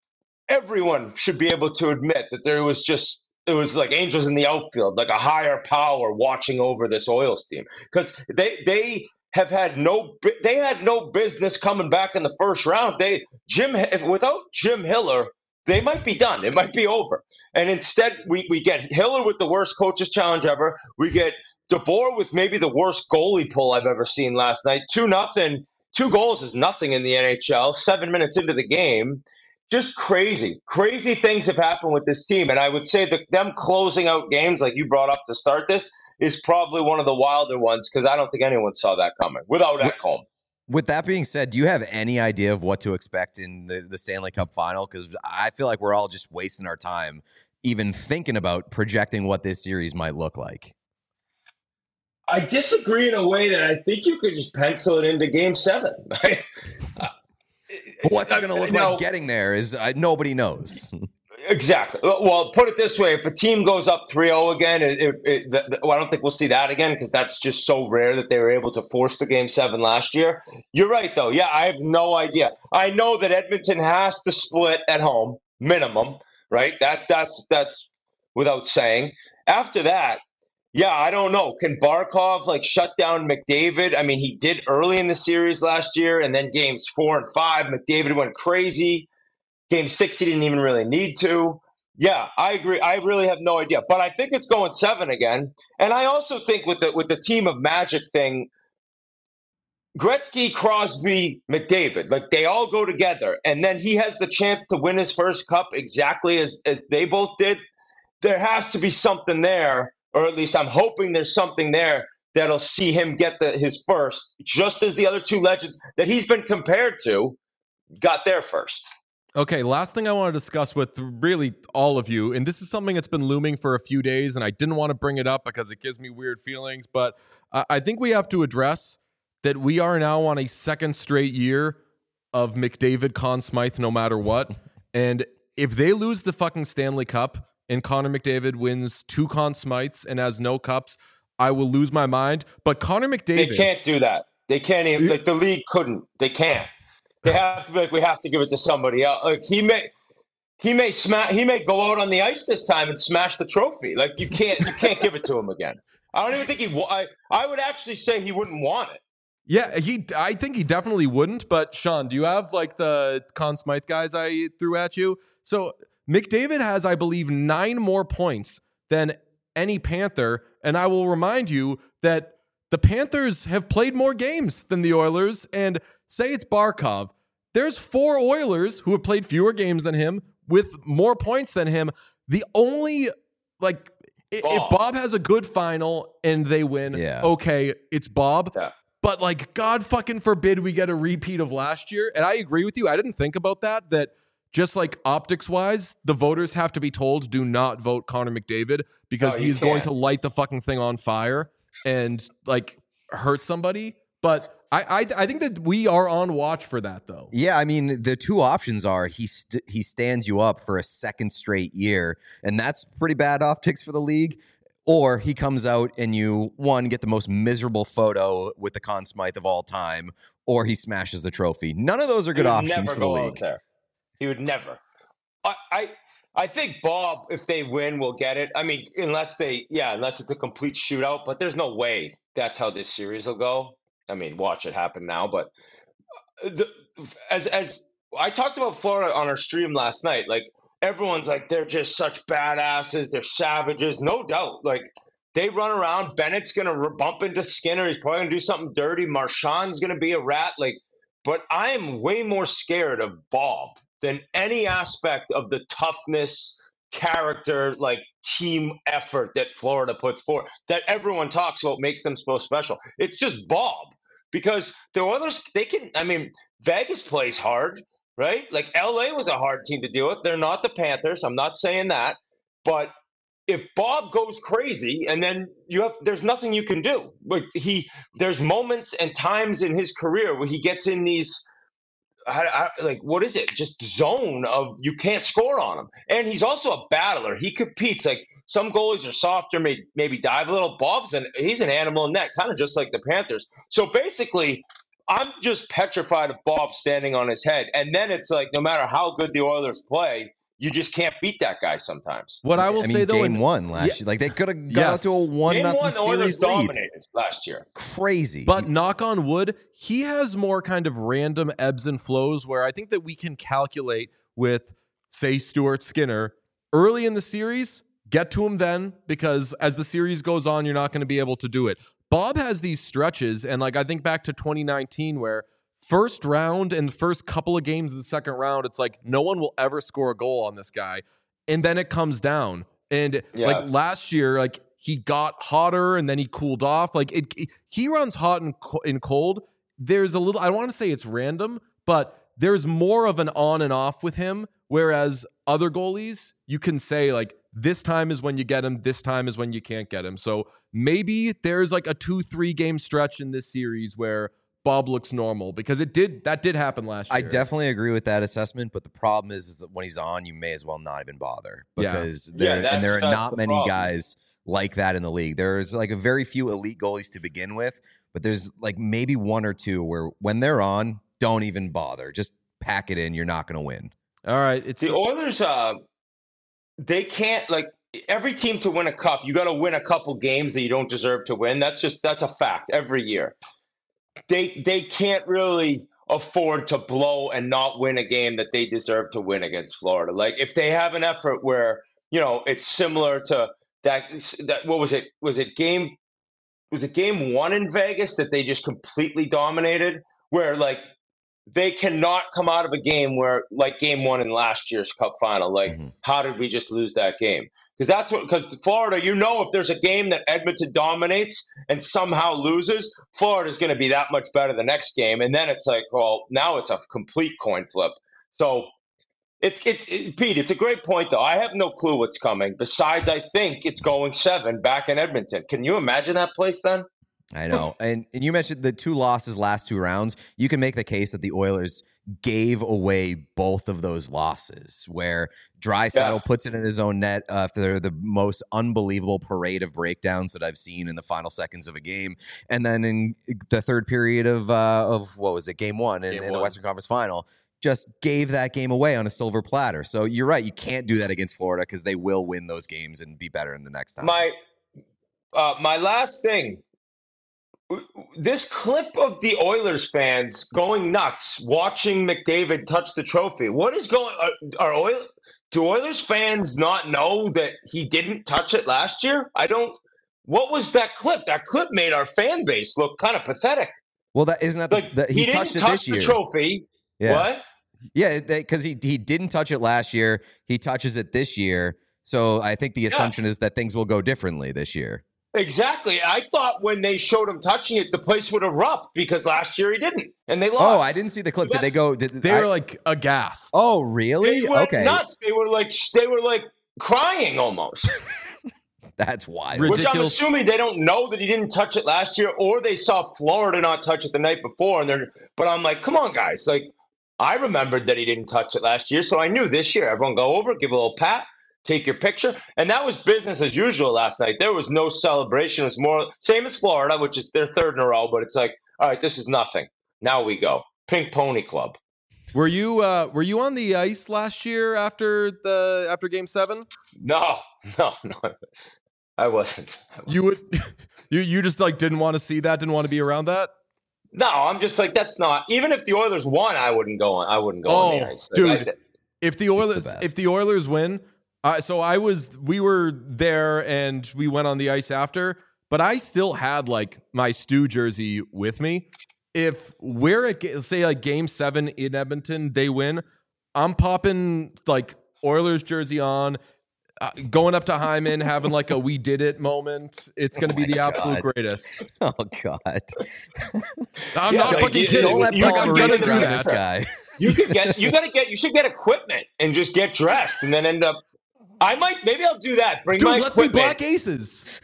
everyone should be able to admit that there was just it was like angels in the outfield, like a higher power watching over this Oilers team because they they. have had no they had no business coming back in the first round. They Jim if, without Jim Hiller, they might be done. It might be over. And instead, we, we get Hiller with the worst coaches challenge ever. We get DeBoer with maybe the worst goalie pull I've ever seen last night. Two nothing. Two goals is nothing in the N H L. Seven minutes into the game. Just crazy. Crazy things have happened with this team. And I would say that them closing out games like you brought up to start this is probably one of the wilder ones because I don't think anyone saw that coming without Ekholm. With that being said, do you have any idea of what to expect in the, the Stanley Cup final? Because I feel like we're all just wasting our time even thinking about projecting what this series might look like. I disagree in a way that I think you could just pencil it into game seven. What's it going to look now, like getting there is uh, nobody knows. Exactly. Well, put it this way. If a team goes up three oh again, it, it, it, the, well, I don't think we'll see that again because that's just so rare that they were able to force the game seven last year. You're right, though. Yeah, I have no idea. I know that Edmonton has to split at home, minimum, right? That That's that's without saying. After that, yeah, I don't know. Can Barkov, like, shut down McDavid? I mean, he did early in the series last year, and then games four and five, McDavid went crazy. Game six, he didn't even really need to. Yeah, I agree. I really have no idea. But I think it's going seven again. And I also think with the with the team of Magic thing, Gretzky, Crosby, McDavid, like they all go together. And then he has the chance to win his first cup exactly as, as they both did. There has to be something there, or at least I'm hoping there's something there that'll see him get the, his first, just as the other two legends that he's been compared to got their first. Okay, last thing I want to discuss with really all of you, and this is something that's been looming for a few days, and I didn't want to bring it up because it gives me weird feelings, but uh, I think we have to address that we are now on a second straight year of McDavid, Conn Smythe, no matter what, and if they lose the fucking Stanley Cup, and Connor McDavid wins two Conn Smythes and has no cups, I will lose my mind. But Connor McDavid, They can't do that. They can't even. Like the league couldn't. They can't. They have to be like, we have to give it to somebody else. Like he may, he may smash. He may go out on the ice this time and smash the trophy. Like you can't. You can't give it to him again. I don't even think he. I. I would actually say he wouldn't want it. Yeah, he. I think he definitely wouldn't. But Sean, do you have like the Conn Smythe guys I threw at you? So McDavid has, I believe, nine more points than any Panther, and I will remind you that the Panthers have played more games than the Oilers. And say it's Barkov, there's four Oilers who have played fewer games than him with more points than him. The only like. Bob. If Bob has a good final and they win, yeah. okay, it's Bob. Yeah. But like, God fucking forbid we get a repeat of last year. And I agree with you. I didn't think about that, that just like optics wise, the voters have to be told, do not vote Connor McDavid because No, he's can't. going to light the fucking thing on fire and like hurt somebody. But I, I, I think that we are on watch for that though. Yeah, I mean, the two options are he st- he stands you up for a second straight year, and that's pretty bad optics for the league. Or he comes out and you, one, get the most miserable photo with the Conn Smythe of all time, or he smashes the trophy. None of those are good He would options never for the go out league. there. He would never. I, I I think Bob, if they win, will get it. I mean, unless they, yeah, unless it's a complete shootout. But there's no way that's how this series will go. I mean, watch it happen now. But the, as as I talked about Florida on our stream last night, like everyone's like they're just such badasses, they're savages, no doubt. Like they run around. Bennett's gonna bump into Skinner. He's probably gonna do something dirty. Marchand's gonna be a rat. Like, but I am way more scared of Bob than any aspect of the toughness, character, like team effort that Florida puts forth, that everyone talks about makes them so special. It's just Bob. Because the Oilers, they can, I mean, Vegas plays hard, right? Like L A was a hard team to deal with. They're not the Panthers. I'm not saying that. But if Bob goes crazy and then you have, there's nothing you can do. Like he, there's moments and times in his career where he gets in these, I, I, like, what is it? Just zone of you can't score on him. And he's also a battler. He competes. Like some goalies are softer, may, maybe dive a little. Bob's an, he's an animal in net, kind of just like the Panthers. So basically, I'm just petrified of Bob standing on his head. And then it's like, no matter how good the Oilers play, you just can't beat that guy sometimes. What I will I mean, say though, game in, one last yeah, year, like they could have got yes. out to a one Game nothing one, the Oilers series lead. dominated last year. Crazy, But knock on wood, he has more kind of random ebbs and flows where I think that we can calculate with, say, Stuart Skinner early in the series, get to him then, because as the series goes on, you're not going to be able to do it. Bob has these stretches, and like I think back to twenty nineteen where first round and first couple of games of the second round, it's like no one will ever score a goal on this guy. And then it comes down. And Yeah. like last year, like he got hotter and then he cooled off. Like it, he runs hot and, and cold. There's a little, I don't want to say it's random, but there's more of an on and off with him. Whereas other goalies, you can say like, this time is when you get him. This time is when you can't get him. So maybe there's like a two, three game stretch in this series where Bob looks normal, because it did, that did happen last year. I definitely agree with that assessment, but the problem is, is that when he's on, you may as well not even bother, because Yeah. there Yeah, and there are that's- not that's the many problem. guys like that in the league. There's like a very few elite goalies to begin with, but there's like maybe one or two where when they're on, don't even bother. Just pack it in. You're not going to win. All right. It's The Oilers, uh, they can't, like, every team to win a cup, you got to win a couple games that you don't deserve to win. That's just, that's a fact every year. They they can't really afford to blow and not win a game that they deserve to win against Florida. Like if they have an effort where, you know, it's similar to that, that what was it? Was it game was it game one in Vegas that they just completely dominated, where like they cannot come out of a game where like game one in last year's cup final. Like, Mhm. how did we just lose that game? Because that's what, because Florida, you know, if there's a game that Edmonton dominates and somehow loses, Florida's going to be that much better the next game. And then it's like, well, now it's a complete coin flip. So it's, it's, it, Pete, it's a great point, though. I have no clue what's coming. Besides, I think it's going seven back in Edmonton. Can you imagine that place then? I know. And and you mentioned the two losses last two rounds. You can make the case that the Oilers gave away both of those losses, where Draisaitl Yeah. puts it in his own net after the most unbelievable parade of breakdowns that I've seen in the final seconds of a game. And then in the third period of, uh, of what was it, game one in, Game in the one. Western Conference Final, just gave that game away on a silver platter. So you're right. You can't do that against Florida because they will win those games and be better in the next time. My uh, my last thing. This clip of the Oilers fans going nuts watching McDavid touch the trophy. What is going? Are, are Oil? Do Oilers fans not know that he didn't touch it last year? I don't. What was that clip? That clip made our fan base look kind of pathetic. Well, that isn't that the, Like the, he, he, didn't touched it touch this the year. trophy. Yeah. What? Yeah, because he he didn't touch it last year. He touches it this year. So I think the Yeah. assumption is that things will go differently this year. Exactly. I thought when they showed him touching it, the place would erupt because last year he didn't, and they lost. Oh, I didn't see the clip. Did they go? Did They I- were like aghast. Oh, They really? went Okay, nuts. They were like they were like crying almost. that's wild. Rid- Which I'm Ridiculous. assuming they don't know that he didn't touch it last year, or they saw Florida not touch it the night before. And they're, but I'm like, come on, guys! Like, I remembered that he didn't touch it last year, so I knew this year. Everyone go over, give a little pat, take your picture, and that was business as usual last night. There was no celebration. It was more same as Florida, which is their third in a row. But it's like, all right, this is nothing. Now we go Pink Pony Club. Were you uh, were you on the ice last year after the after Game Seven? No, no, no, I wasn't. I wasn't. You would you you just like didn't want to see that, didn't want to be around that. No, I'm just like that's not. Even if the Oilers won, I wouldn't go on. I wouldn't go on the Oh, ice, Like, dude. I- If the Oilers best. if the Oilers win, uh, so I was we were there and we went on the ice after, but I still had like my Stu jersey with me. If we're at ga- say like Game Seven in Edmonton, they win, I'm popping like Oilers jersey on, uh, going up to Hyman, having like a "we did it" moment. It's going to Oh be my the absolute God. greatest. Oh God! I'm Yeah, not like, fucking you- kidding. Don't let you- Like, Paul I'm you gonna Maurice gotta do drive that. this guy. You could get, you gotta get, you should get equipment and just get dressed, and then end up. I might, maybe I'll do that. Bring Dude, my let's be equipment. Black Aces.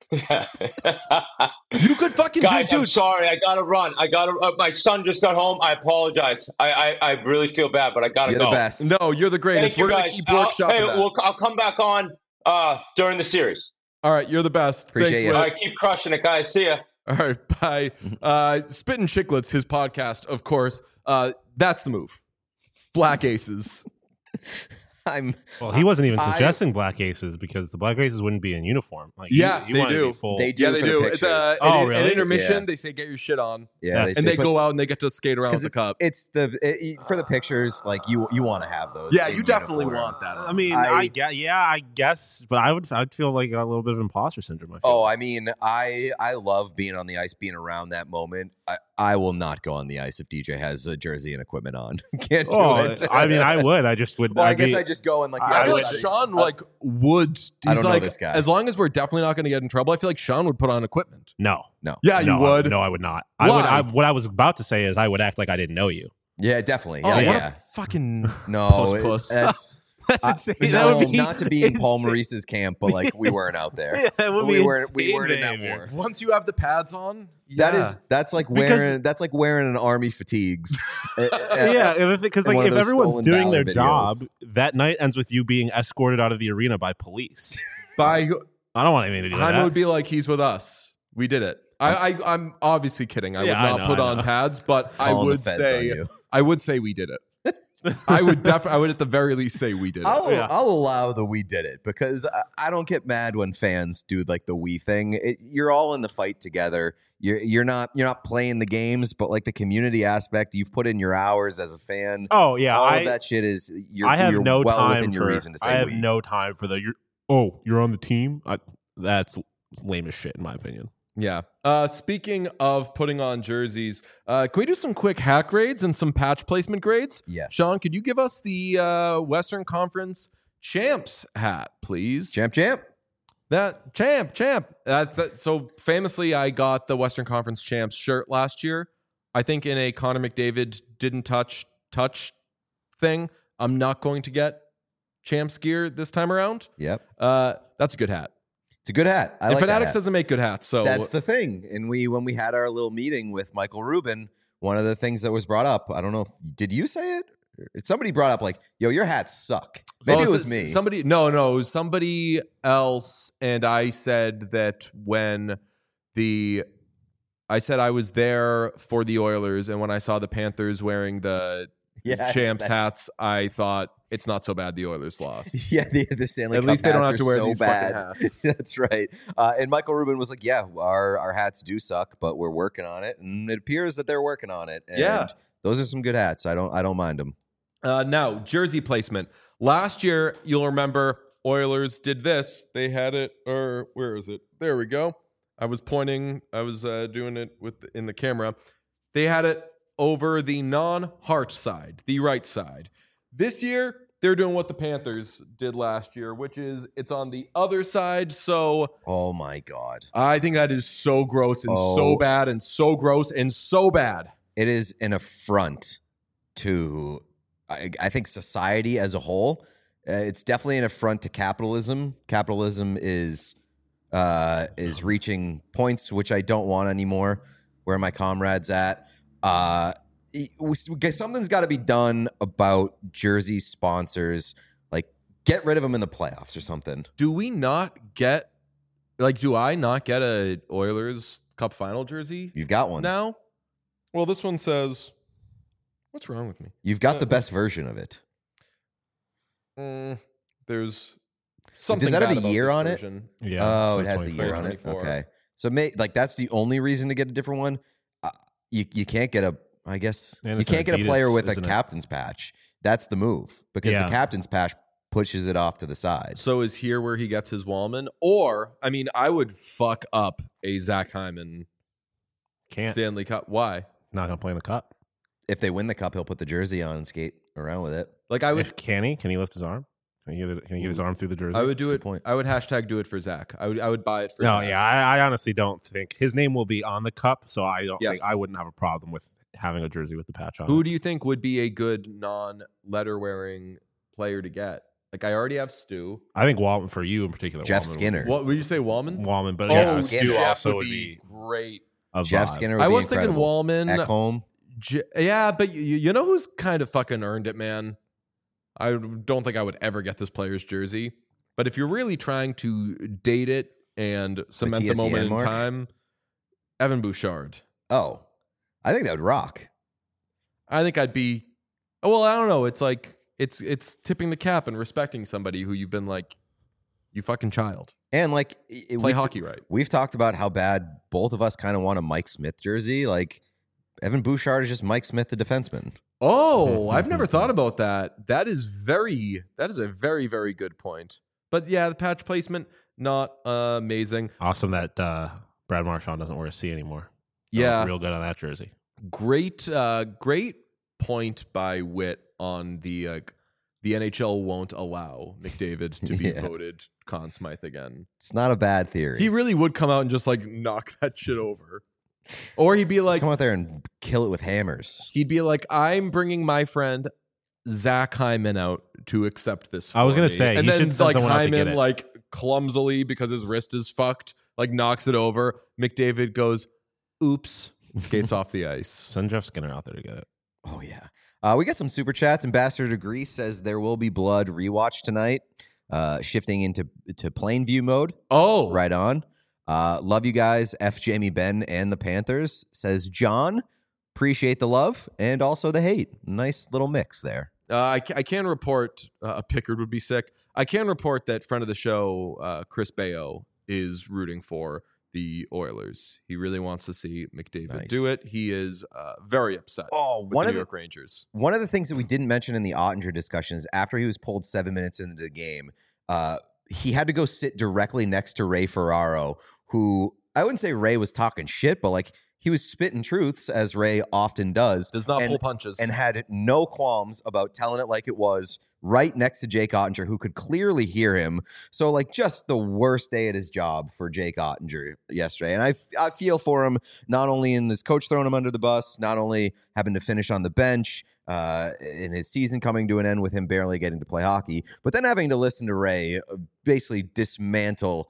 You could fucking Guys, do, I'm dude. sorry. I gotta run. I gotta. Uh, my son just got home. I apologize. I, I, I really feel bad, but I gotta You're go. the best. No, you're the greatest. Thank you, We're gonna guys. keep I'll- workshopping Hey, that. we'll, I'll come back on uh, during the series. All right, you're the best. Appreciate Thanks, you. Will. All right, keep crushing it, guys. See ya. All right, bye. Uh, Spittin' Chicklets, his podcast, of course. Uh, that's the move. Black Aces. I'm. Well, he wasn't even I- suggesting Black Aces because the Black Aces wouldn't be in uniform. Like, Yeah, he, he they wanted to do. be full. They do Yeah, they for the do. pictures. It's, uh, Oh, an, really? an intermission, Yeah. they say get your shit on. Yeah, That's- And they put- go out and they get to skate around with 'cause the cup. It's the it, for the pictures. Like you, you want to have those. Yeah, in you definitely uniform. want that. I mean, I- I, get, yeah, I guess, but I would, I'd feel like a little bit of imposter syndrome. I feel. Oh, I mean, I I love being on the ice, being around that moment. I, I will not go on the ice if D J has a jersey and equipment on. Can't do Oh, it. I mean, I would. I just would. Well, I I'd guess be- I just go and like. I the I other feel like side- Sean uh, like would. He's I don't know like, this guy. As long as we're definitely not going to get in trouble, I feel like Sean would put on equipment. no, no. Yeah, you no, would. I, no, I would not. I would. Why? I, what I was about to say is, I would act like I didn't know you. Yeah, definitely. Oh, Yeah, what yeah. a fucking No, puss it- puss. that's That's I- insane. no, That would be not to be in Paul insane. Maurice's camp, but like we weren't out there. Yeah, that would we be weren't. We insane weren't in that behavior. war. Once you have the pads on, That yeah. is that's like Because- wearing that's like wearing an army fatigues. Yeah, because in like one of if those everyone's stolen doing their valor job, videos. that night ends with you being escorted out of the arena by police. by I don't want anything to do with Jaime that. would be like, he's with us. We did it. I, I I'm obviously kidding. I Yeah, I would not know, put I on know. pads, but I Calling the would feds say on you. I would say we did it. I would definitely I would at the very least say we did it. I'll Yeah. I'll allow the we did it because I, I don't get mad when fans do like the we thing. It, you're all in the fight together. You're you're not you're not playing the games, but like the community aspect, you've put in your hours as a fan. Oh yeah, all I, of that shit is you're, I have you're no well time within your for. reason to say I have we. no time for the. You're, oh, you're on the team. I, that's lame as shit in my opinion. Yeah. Uh, speaking of putting on jerseys, uh, can we do some quick hat grades and some patch placement grades? Yes. Sean, could you give us the uh, Western Conference champs hat, please? Champ, champ. That champ, champ. That's that. So famously, I got the Western Conference champs shirt last year. I think in a Connor McDavid didn't touch touch thing. I'm not going to get champs gear this time around. Yep. Uh, that's a good hat. It's a good hat. I and like that Fanatics hat. doesn't make good hats, so That's the thing. And we, when we had our little meeting with Michael Rubin, one of the things that was brought up, I don't know if, did you say it? Somebody brought up like, yo, your hats suck. Maybe Oh, it so- was me. Somebody, no, no, it was somebody else, and I said that when the, I said I was there for the Oilers, and when I saw the Panthers wearing the Yes, champs that's- hats, I thought it's not so bad the Oilers lost. Yeah, the, the Stanley At Cup least they don't hats have to are wear so these bad. fucking hats. That's right. Uh, and Michael Rubin was like, yeah, our, our hats do suck, but we're working on it. And it appears that they're working on it. And Yeah. those are some good hats. I don't I don't mind them. Uh, now, jersey placement. Last year, you'll remember Oilers did this. They had it, or where is it? There we go. I was pointing. I was uh, doing it with in the camera. They had it over the non-heart side, the right side. This year, they're doing what the Panthers did last year, which is it's on the other side. So Oh, my God. I think that is so gross and Oh. so bad and so gross and so bad. It is an affront to, I, I think, society as a whole. Uh, it's definitely an affront to capitalism. Capitalism is uh, is reaching points which I don't want anymore. Where are my comrades at? Uh, we- we- something's got to be done about jersey sponsors. Like, get rid of them in the playoffs or something. Do we not get like? Do I not get a Oilers Cup final jersey You've got one. now? Well, this one says, "What's wrong with me?" You've got the best version of it. Mm, there's something. Does that have bad a about year this on it? version. Yeah. Oh, it since has the twenty-four. year on it. twenty-four. Okay, so may, like that's the only reason to get a different one. Uh, you you can't get a. I guess And you it's an can't get a player Adidas, with a isn't it? captain's patch. That's the move because Yeah. the captain's patch pushes it off to the side. So is here where he gets his Wallman, or I mean, I would fuck up a Zach Hyman Can't. Stanley Cup. Why? Not gonna play in the cup. If they win the cup, he'll put the jersey on and skate around with it. Like I would, If, can he? Can he lift his arm? Can he get, it, can he get his arm through the jersey? I would That's a do good it. point. I would hashtag do it for Zach. I would. I would buy it for. No, Zach. yeah, I, I honestly don't think his name will be on the cup, so I don't Yes. think I wouldn't have a problem with having a jersey with the patch on. Who it. do you think would be a good non-letter wearing player to get? Like I already have Stu. I think Wallman for you in particular. Jeff Wallman would Skinner. be- What would you say, Wallman? Wallman, but Jeff yeah, Skinner. Stu Jeff also would would be be great. a Jeff vibe. Skinner. Would I be was thinking incredible. Wallman. At home. J- yeah, but you, you know who's kind of fucking earned it, man? I don't think I would ever get this player's jersey. But if you're really trying to date it and cement the T S E moment in mark? time, Evan Bouchard. Oh, I think that would rock. I think I'd be. Well, I don't know. It's like it's it's tipping the cap and respecting somebody who you've been like, you fucking child. And like, it, Play we've- hockey right. We've talked about how bad both of us kind of want a Mike Smith jersey. Like, Evan Bouchard is just Mike Smith, the defenseman. Oh, I've never thought about that. That is very. That is a very very good point. But yeah, the patch placement not uh, amazing. Awesome that uh, Brad Marchand doesn't wear a C anymore. Yeah. real good on that jersey. Great, uh, great point by Witt on the uh, the N H L won't allow McDavid to be Yeah. voted Conn Smythe again. It's not a bad theory. He really would come out and just like knock that shit over, or he'd be like, come out there and kill it with hammers. he'd be like, I'm bringing my friend Zach Hyman out to accept this. I was for gonna me." say, and he then should send like someone out to get Hyman it. like clumsily because his wrist is fucked, like knocks it over. McDavid goes, "Oops," and skates off the ice. Send Jeff Skinner out there to get it. Oh yeah. Uh, we got some super chats. Ambassador to Greece says there will be blood rewatch tonight. Uh, shifting into to plain view mode. Oh, Right on. Uh, love you guys. F Jamie Ben and the Panthers says John. Appreciate the love and also the hate. Nice little mix there. Uh, I, ca- I can report uh, Pickard would be sick. I can report that friend of the show, uh, Chris Bayo, is rooting for the Oilers. He really wants to see McDavid Nice. do it. He is uh, very upset Oh, with one the of New the York Rangers. One of the things that we didn't mention in the Ottinger discussions after he was pulled seven minutes into the game, uh, he had to go sit directly next to Ray Ferraro, who I wouldn't say Ray was talking shit, but like he was spitting truths as Ray often does. Does not and, pull punches. and had no qualms about telling it like it was right next to Jake Ottinger, who could clearly hear him. So like just the worst day at his job for Jake Ottinger yesterday. And I, f- I feel for him, not only in this coach throwing him under the bus, not only having to finish on the bench, uh, in his season coming to an end with him barely getting to play hockey, but then having to listen to Ray uh, basically dismantle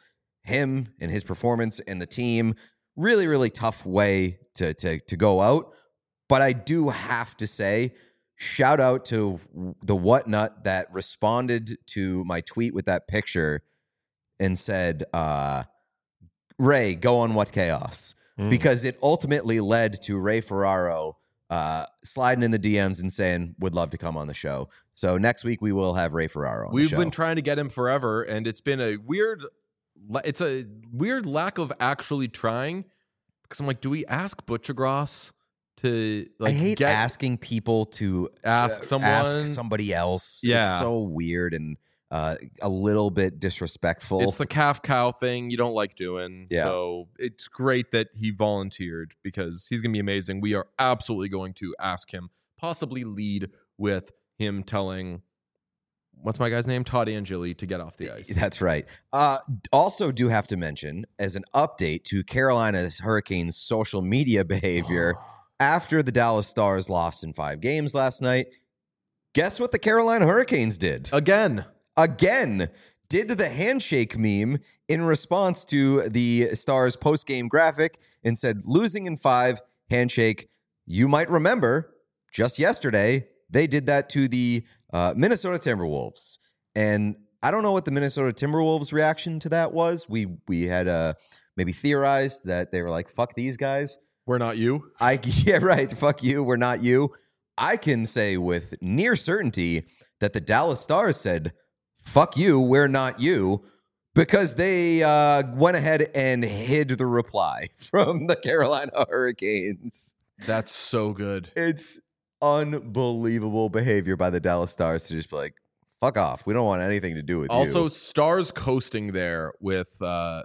him and his performance and the team. Really, really tough way to to to go out. But I do have to say, shout out to the Whatnut that responded to my tweet with that picture and said, uh, Ray, go on What Chaos. Mm. Because it ultimately led to Ray Ferraro uh, sliding in the D Ms and saying, would love to come on the show. So next week we will have Ray Ferraro on We've the show. been trying to get him forever, and it's been a weird, it's a weird lack of actually trying. Because I'm like, do we ask Butchergross to like? I hate get, asking people to ask uh, someone, ask somebody else. Yeah, it's so weird and uh, a little bit disrespectful. It's the calf cow thing you don't like doing. Yeah. So it's great that he volunteered because he's gonna be amazing. We are absolutely going to ask him, possibly lead with him telling. What's my guy's name? Todd Angeli to get off the ice. That's right. Uh, also, do have to mention as an update to Carolina's Hurricanes' social media behavior after the Dallas Stars lost in five games last night. Guess what the Carolina Hurricanes did? Again. Again. Did the handshake meme in response to the Stars post-game graphic and said, losing in five, handshake. You might remember just yesterday, they did that to the Uh, Minnesota Timberwolves. And I don't know what the Minnesota Timberwolves reaction to that was. We we had uh, maybe theorized that they were like, fuck these guys. We're not you. I Yeah, right. Fuck you. We're not you. I can say with near certainty that the Dallas Stars said, fuck you, we're not you, because they uh, went ahead and hid the reply from the Carolina Hurricanes. That's so good. It's unbelievable behavior by the Dallas Stars to just be like, fuck off. We don't want anything to do with also, you. Also, Stars coasting there with uh,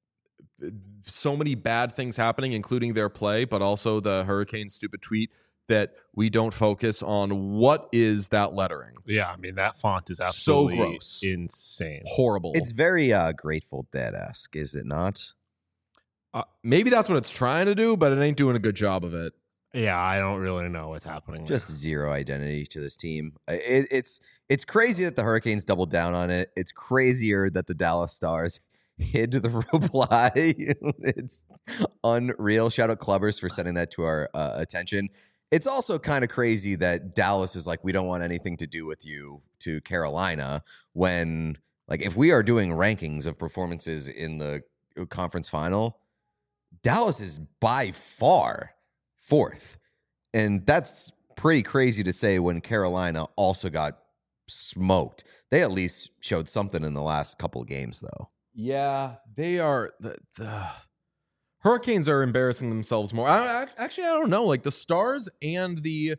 so many bad things happening, including their play, but also the Hurricanes' stupid tweet that we don't focus on what is that lettering. Yeah, I mean, that font is absolutely so gross. Insane. Horrible. It's very uh, Grateful Dead-esque, is it not? Uh, maybe that's what it's trying to do, but it ain't doing a good job of it. Yeah, I don't really know what's happening. Just there. Zero identity to this team. It, it's it's crazy that the Hurricanes doubled down on it. It's crazier that the Dallas Stars hid the reply. It's unreal. Shout out Clubbers for sending that to our uh, attention. It's also kind of crazy that Dallas is like, we don't want anything to do with you to Carolina when, like, if we are doing rankings of performances in the conference final, Dallas is by far fourth. And that's pretty crazy to say when Carolina also got smoked. They at least showed something in the last couple of games, though. Yeah, they are. The, the Hurricanes are embarrassing themselves more. I, I, actually, I don't know. Like the Stars and the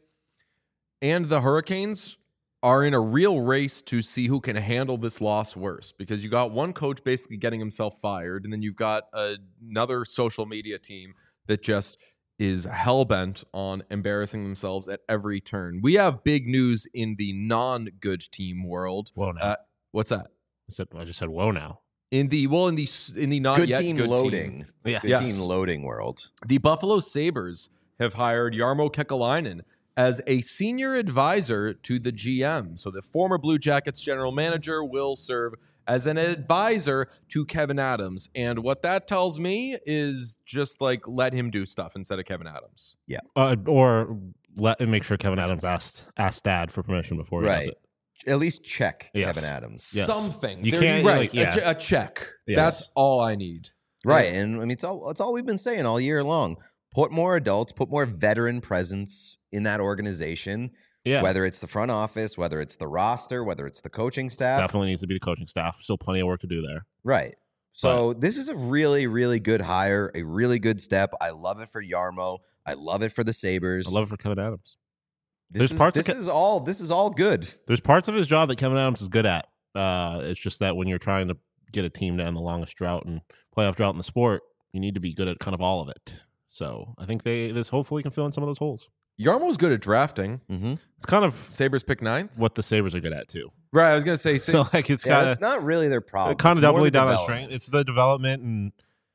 and the Hurricanes are in a real race to see who can handle this loss worse, because you got one coach basically getting himself fired, and then you've got a, another social media team that just is hell-bent on embarrassing themselves at every turn. We have big news in the non-good team world. Whoa, now. Uh, what's that? I, said, I just said, whoa, now. In the well, in the in the not good yet team good loading, team. Yeah, good yes. team loading world. The Buffalo Sabres have hired Jarmo Kekalainen as a senior advisor to the G M. So the former Blue Jackets general manager will serve as an advisor to Kevyn Adams. And what that tells me is just like let him do stuff instead of Kevyn Adams. Yeah. Uh, or let make sure Kevyn Adams asked asked Dad for permission before he Right. does it. At least check Yes. Kevyn Adams. Yes. Something. You There- can't, right. like, yeah. a, a check. Yes. That's all I need. Right. And I mean, it's all, it's all we've been saying all year long. Put more adults, put more veteran presence in that organization, Yeah, whether it's the front office, whether it's the roster, whether it's the coaching staff. definitely needs to be the coaching staff. Still plenty of work to do there. Right. So this is a really, really good hire, a really good step. I love it for Jarmo. I love it for the Sabres. I love it for Kevyn Adams. This There's is, parts of this Ke- is all this is all good. There's parts of his job that Kevyn Adams is good at. Uh, it's just that when you're trying to get a team to end the longest drought and playoff drought in the sport, you need to be good at kind of all of it. So I think they this hopefully can fill in some of those holes. Jarmo's good at drafting. Mm-hmm. It's kind of Sabres pick ninth. what the Sabres are good at too. Right. I was going to say. So like it's Yeah, kind that's of not really their problem. kind It's of more doubly the down on development. strength. It's the development and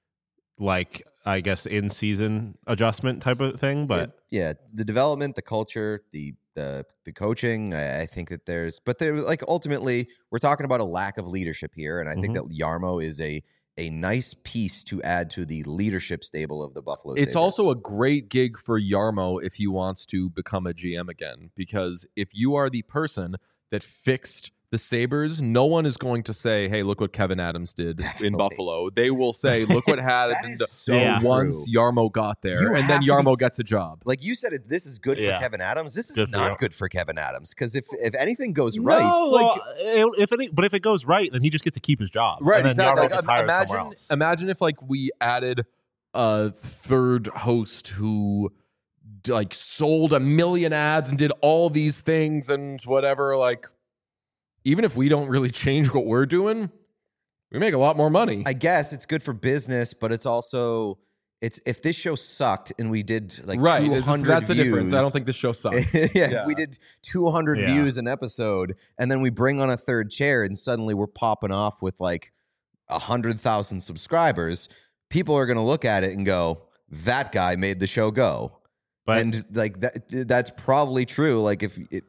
like I guess in season adjustment type of thing. But yeah, yeah, the development, the culture, the the the coaching. I, I think that there's, but there like ultimately we're talking about a lack of leadership here, and I think Mhm. that Jarmo is a a nice piece to add to the leadership stable of the Buffalo It's Sabres. also a great gig for Yarmo if he wants to become a G M again, because if you are the person that fixed the Sabres, no one is going to say, hey, look what Kevin Adams did Definitely. in Buffalo. They will say, look what happened That is so Yeah. once true. Yarmo got there. You And then have to be- Yarmo gets a job. Like you said, it, this is good Yeah. for Kevin Adams. This is Good for not you. good for Kevin Adams because if if anything goes No, right, like- well, if it, but if it goes right, then he just gets to keep his job. Right, and then exactly. Yarmo Like, gets hired somewhere imagine, else. imagine if like we added a third host who d- like sold a million ads and did all these things and whatever. Like, even if we don't really change what we're doing, we make a lot more money. I guess it's good for business, but it's also it's if this show sucked and we did like right, two it's- hundred that's the views, difference. I don't think the show sucks. yeah, if we did two hundred Yeah. views an episode and then we bring on a third chair and suddenly we're popping off with like one hundred thousand subscribers, people are going to look at it and go, that guy made the show go. But and like that that's probably true. Like if it,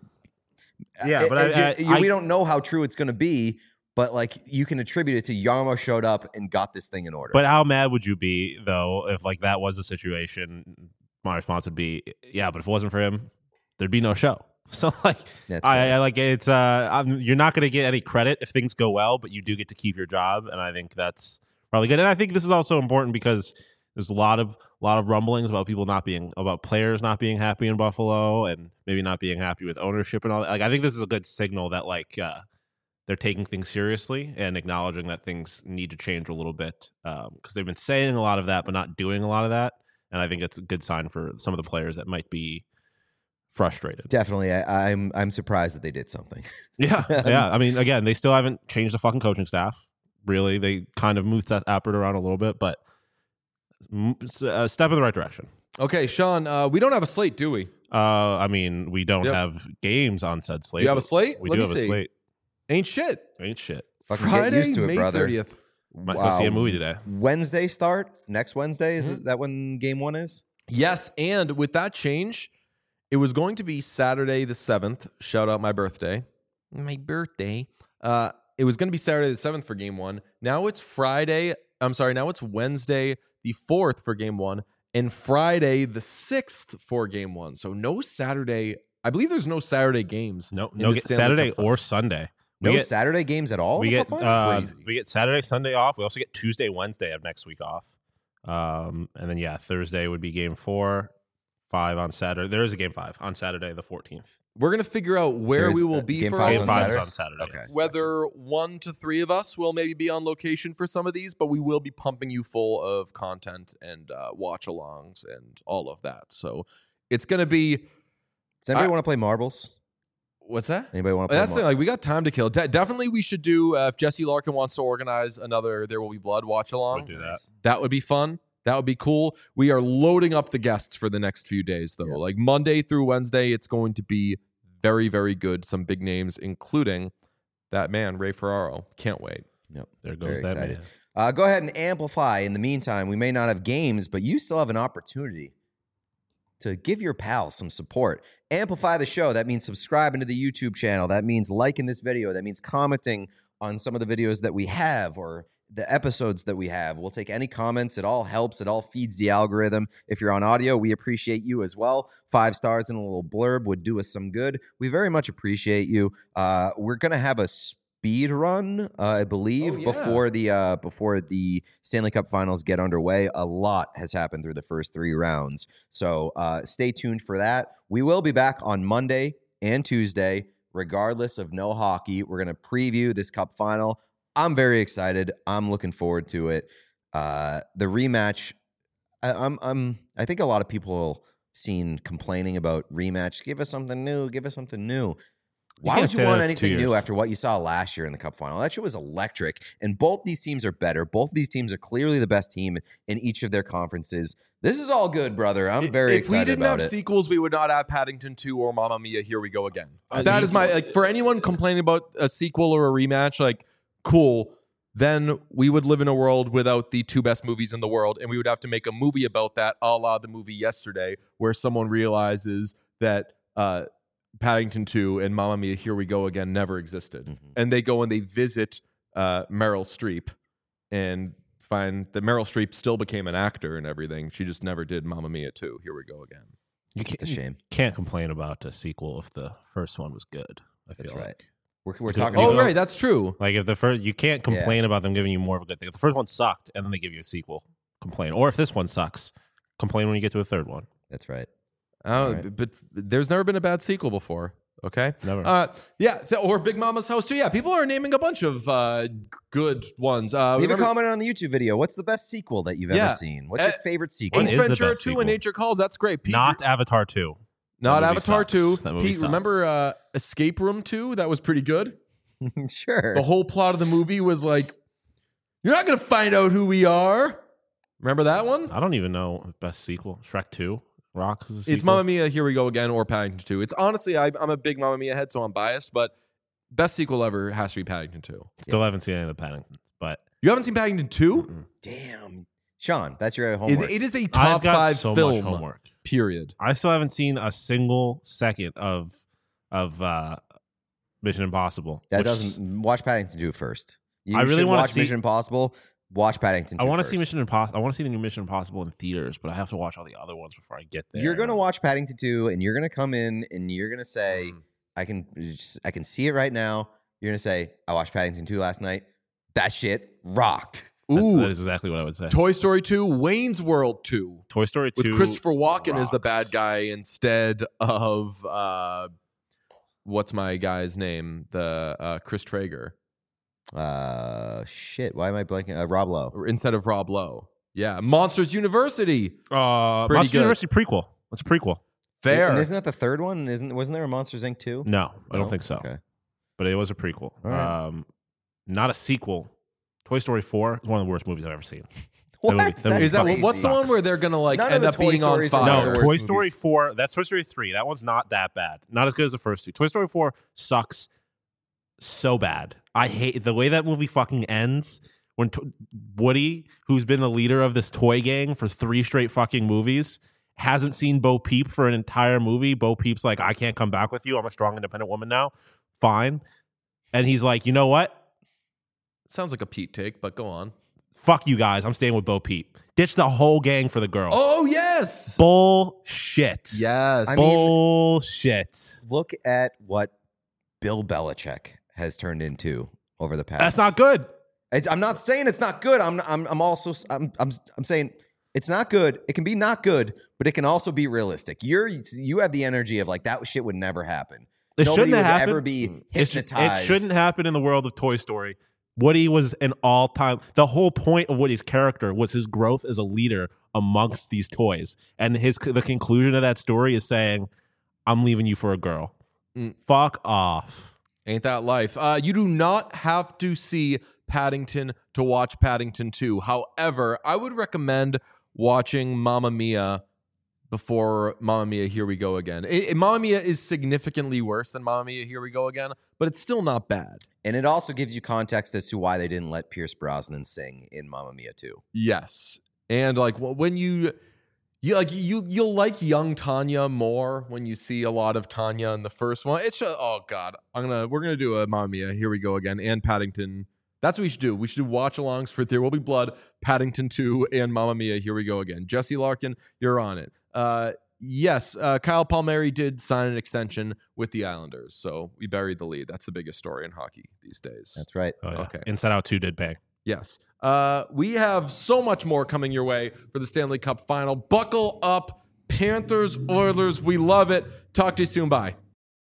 Yeah, it- but it- I- you- I- we I- don't know how true it's going to be, but like you can attribute it to Yarmo showed up and got this thing in order. But how mad would you be though if like that was the situation? My response would be, yeah, but if it wasn't for him, there'd be no show. So like, That's I, fair. I like it's. Uh, I'm, you're not going to get any credit if things go well, but you do get to keep your job, and I think that's probably good. And I think this is also important because there's a lot of a lot of rumblings about people not being about players not being happy in Buffalo and maybe not being happy with ownership and all that. Like I think this is a good signal that like uh, they're taking things seriously and acknowledging that things need to change a little bit because um, they've been saying a lot of that but not doing a lot of that. And I think it's a good sign for some of the players that might be frustrated. Definitely, I, I'm I'm surprised that they did something. Yeah, yeah. I mean, again, they still haven't changed the fucking coaching staff. Really, they kind of moved that Appert around a little bit, but m- s- a step in the right direction. Okay, Sean, uh, we don't have a slate, do we? Uh, I mean, we don't Yep. have games on said slate. Do you have a but slate? We Let do me have see. a slate. Ain't shit. Ain't shit. Fucking Friday, get used to it, May brother. thirtieth. Might go see a movie today. Wednesday start next Wednesday. Is Mhm. that when game one is? Yes, and with that change, it was going to be Saturday the seventh. Shout out my birthday. My birthday. Uh, it was going to be Saturday the seventh for game one. Now it's Friday. I'm sorry. Now it's Wednesday the fourth for game one and Friday the sixth for game one. So no Saturday. I believe there's no Saturday games. No, in no, the get Stanley Saturday Cup final. or Sunday. We No get Saturday games at all. we in the get Cup final? uh, Crazy. we get Saturday, Sunday off. We also get Tuesday, Wednesday of next week off. Um, and then yeah, Thursday would be game four, five on Saturday. There is a game five on Saturday the fourteenth. We're going to figure out where There's, we will uh, be game for five's all Game of on five these. is Saturday? on Saturday. Okay. yes. Whether one to three of us will maybe be on location for some of these, but we will be pumping you full of content and uh, watch alongs and all of that. So it's going to be. Does anybody I- want to play marbles? What's that? Anybody want to play? That's the thing. mar- Like we got time to kill. De- definitely, we should do. Uh, if Jesse Larkin wants to organize another "There Will Be Blood" watch along, We'll do that. that would be fun. That would be cool. We are loading up the guests for the next few days, though. Yeah. Like Monday through Wednesday, it's going to be very, very good. Some big names, including that man Ray Ferraro. Can't wait. Yep. There goes Very that excited. man. Uh, go ahead and amplify. In the meantime, we may not have games, but you still have an opportunity to give your pals some support. Amplify the show. That means subscribing to the YouTube channel. That means liking this video. That means commenting on some of the videos that we have or the episodes that we have. We'll take any comments. It all helps. It all feeds the algorithm. If you're on audio, we appreciate you as well. Five stars and a little blurb would do us some good. We very much appreciate you. Uh, we're going to have a speed run, uh, I believe, Oh, yeah. before the uh, before the Stanley Cup Finals get underway. A lot has happened through the first three rounds, so uh, stay tuned for that. We will be back on Monday and Tuesday, regardless of no hockey. We're going to preview this Cup Final. I'm very excited. I'm looking forward to it. Uh, the rematch. I, I'm. I'm. I think a lot of people seen complaining about rematch. Give us something new. Give us something new. Why can't would say you want that for two anything new years. after what you saw last year in the Cup Final? That shit was electric. And both these teams are better. Both these teams are clearly the best team in each of their conferences. This is all good, brother. I'm very if excited we didn't about have it. sequels, we would not have Paddington two or Mamma Mia. Here we go again. Uh, that you- is my like for anyone complaining about a sequel or a rematch. Like, cool. Then we would live in a world without the two best movies in the world, and we would have to make a movie about that, a la the movie Yesterday, where someone realizes that uh, Paddington two and Mamma Mia, Here We Go Again never existed, Mhm. and they go and they visit uh, Meryl Streep and fine. The Meryl Streep still became an actor and everything. She just never did Mamma Mia two. Here we go again. You can't, It's a shame. can't complain about a sequel if the first one was good. I feel That's like. right. We're, we're Is it- talking Oh, about right. That's true. Like if the first, you can't complain about them giving you more of a good thing. If the first one sucked and then they give you a sequel, complain. Or if this one sucks, complain when you get to a third one. That's right. Oh, Right. but there's never been a bad sequel before. Okay. Never. Uh, yeah. th- or Big Mama's House too. Yeah. People are naming a bunch of uh, g- good ones. Uh, Leave remember a comment on the YouTube video. What's the best sequel that you've Yeah. ever seen? What's Uh, your favorite sequel? What Ace is the Ventura best two sequel? and Nature Calls. That's great. Pete, Not Avatar two. not That movie Avatar sucks. two. That movie Pete, sucks. remember uh, Escape Room two? That was pretty good. Sure. The whole plot of the movie was like, you're not going to find out who we are. Remember that one? I don't even know best sequel. Shrek two. Rock is a sequel. It's Mamma Mia, Here We Go Again, or Paddington two. It's honestly, I, I'm a big Mamma Mia head, so I'm biased, but best sequel ever has to be Paddington two. Still haven't seen any of the Paddingtons, but You haven't seen Paddington two? Mm-mm. Damn. Sean, that's your It, homework. it is a I've top got five so film, much homework. period. I still haven't seen a single second of of uh, Mission Impossible. that which- doesn't watch Paddington two first. You I really should wanna watch see- Mission Impossible. Watch Paddington two I want to first. see Mission Impossible. I want to see the new Mission Impossible in theaters, but I have to watch all the other ones before I get there. You're gonna watch Paddington two, and you're gonna come in, and you're gonna say, Mm. "I can, I can see it right now." You're gonna say, "I watched Paddington two last night. That shit rocked." That's- Ooh, that is exactly what I would say. Toy Story two, Wayne's World two, Toy Story two with Christopher Walken as the rocks. bad guy instead of uh, what's my guy's name? The uh, Chris Traeger Uh, shit. Why am I blanking? Uh, Rob Lowe. or instead of Rob Lowe. Yeah, Monsters University. Uh, Pretty Monster good. University prequel. That's a prequel. Fair. And isn't that the third one? Isn't wasn't there a Monsters Incorporated two? No, I don't No? think so. Okay. But it was a prequel. All right. Um, not a sequel. Toy Story four is one of the worst movies I've ever seen. What? movie- that That's movie Is that crazy. what's the one where they're gonna like None of end the up Toy being on Stories are fire? one No, of the Toy worst Story movies. four. That's Toy Story three. That one's not that bad. Not as good as the first two. Toy Story four sucks so bad. I hate the way that movie fucking ends. When to- Woody, who's been the leader of this toy gang for three straight fucking movies, hasn't seen Bo Peep for an entire movie. Bo Peep's like, I can't come back with you. I'm a strong, independent woman now. Fine. And he's like, you know what? Sounds like a Pete take, but go on. Fuck you guys. I'm staying with Bo Peep. Ditch the whole gang for the girl. Oh yes, Bullshit. yes. I mean- Bullshit. Look at what Bill Belichick has turned into over the past. That's not good. It's, I'm not saying it's not good. I'm I'm I'm also I'm I'm I'm saying it's not good. It can be not good, but it can also be realistic. You're you have the energy of like that shit would never happen. It Nobody shouldn't would have happened. ever be It, sh- hypnotized. it shouldn't happen in the world of Toy Story. Woody was an all-time. The whole point of Woody's character was his growth as a leader amongst these toys, and his the conclusion of that story is saying, "I'm leaving you for a girl." Mm. Fuck off. Ain't that life? Uh, you do not have to see Paddington to watch Paddington two. However, I would recommend watching Mamma Mia before Mamma Mia, Here We Go Again. It, it- Mamma Mia is significantly worse than Mamma Mia, Here We Go Again, but it's still not bad. And it also gives you context as to why they didn't let Pierce Brosnan sing in Mamma Mia two. Yes, and like wh- when you, you like you you'll like young Tanya more when you see a lot of Tanya in the first one. It's just, oh god, I'm gonna we're gonna do a Mamma Mia, Here We Go Again, and Paddington. That's what we should do. We should do watch alongs for There Will Be Blood, Paddington two, and Mamma Mia, Here We Go Again. Jesse Larkin, you're on it. Uh, yes, uh, Kyle Palmieri did sign an extension with the Islanders, so we buried the lead. That's the biggest story in hockey these days. That's right. Oh, yeah. Okay. Inside Out two did bang. Yes. Uh, we have so much more coming your way for the Stanley Cup final. Buckle up, Panthers, Oilers. We love it. Talk to you soon. Bye.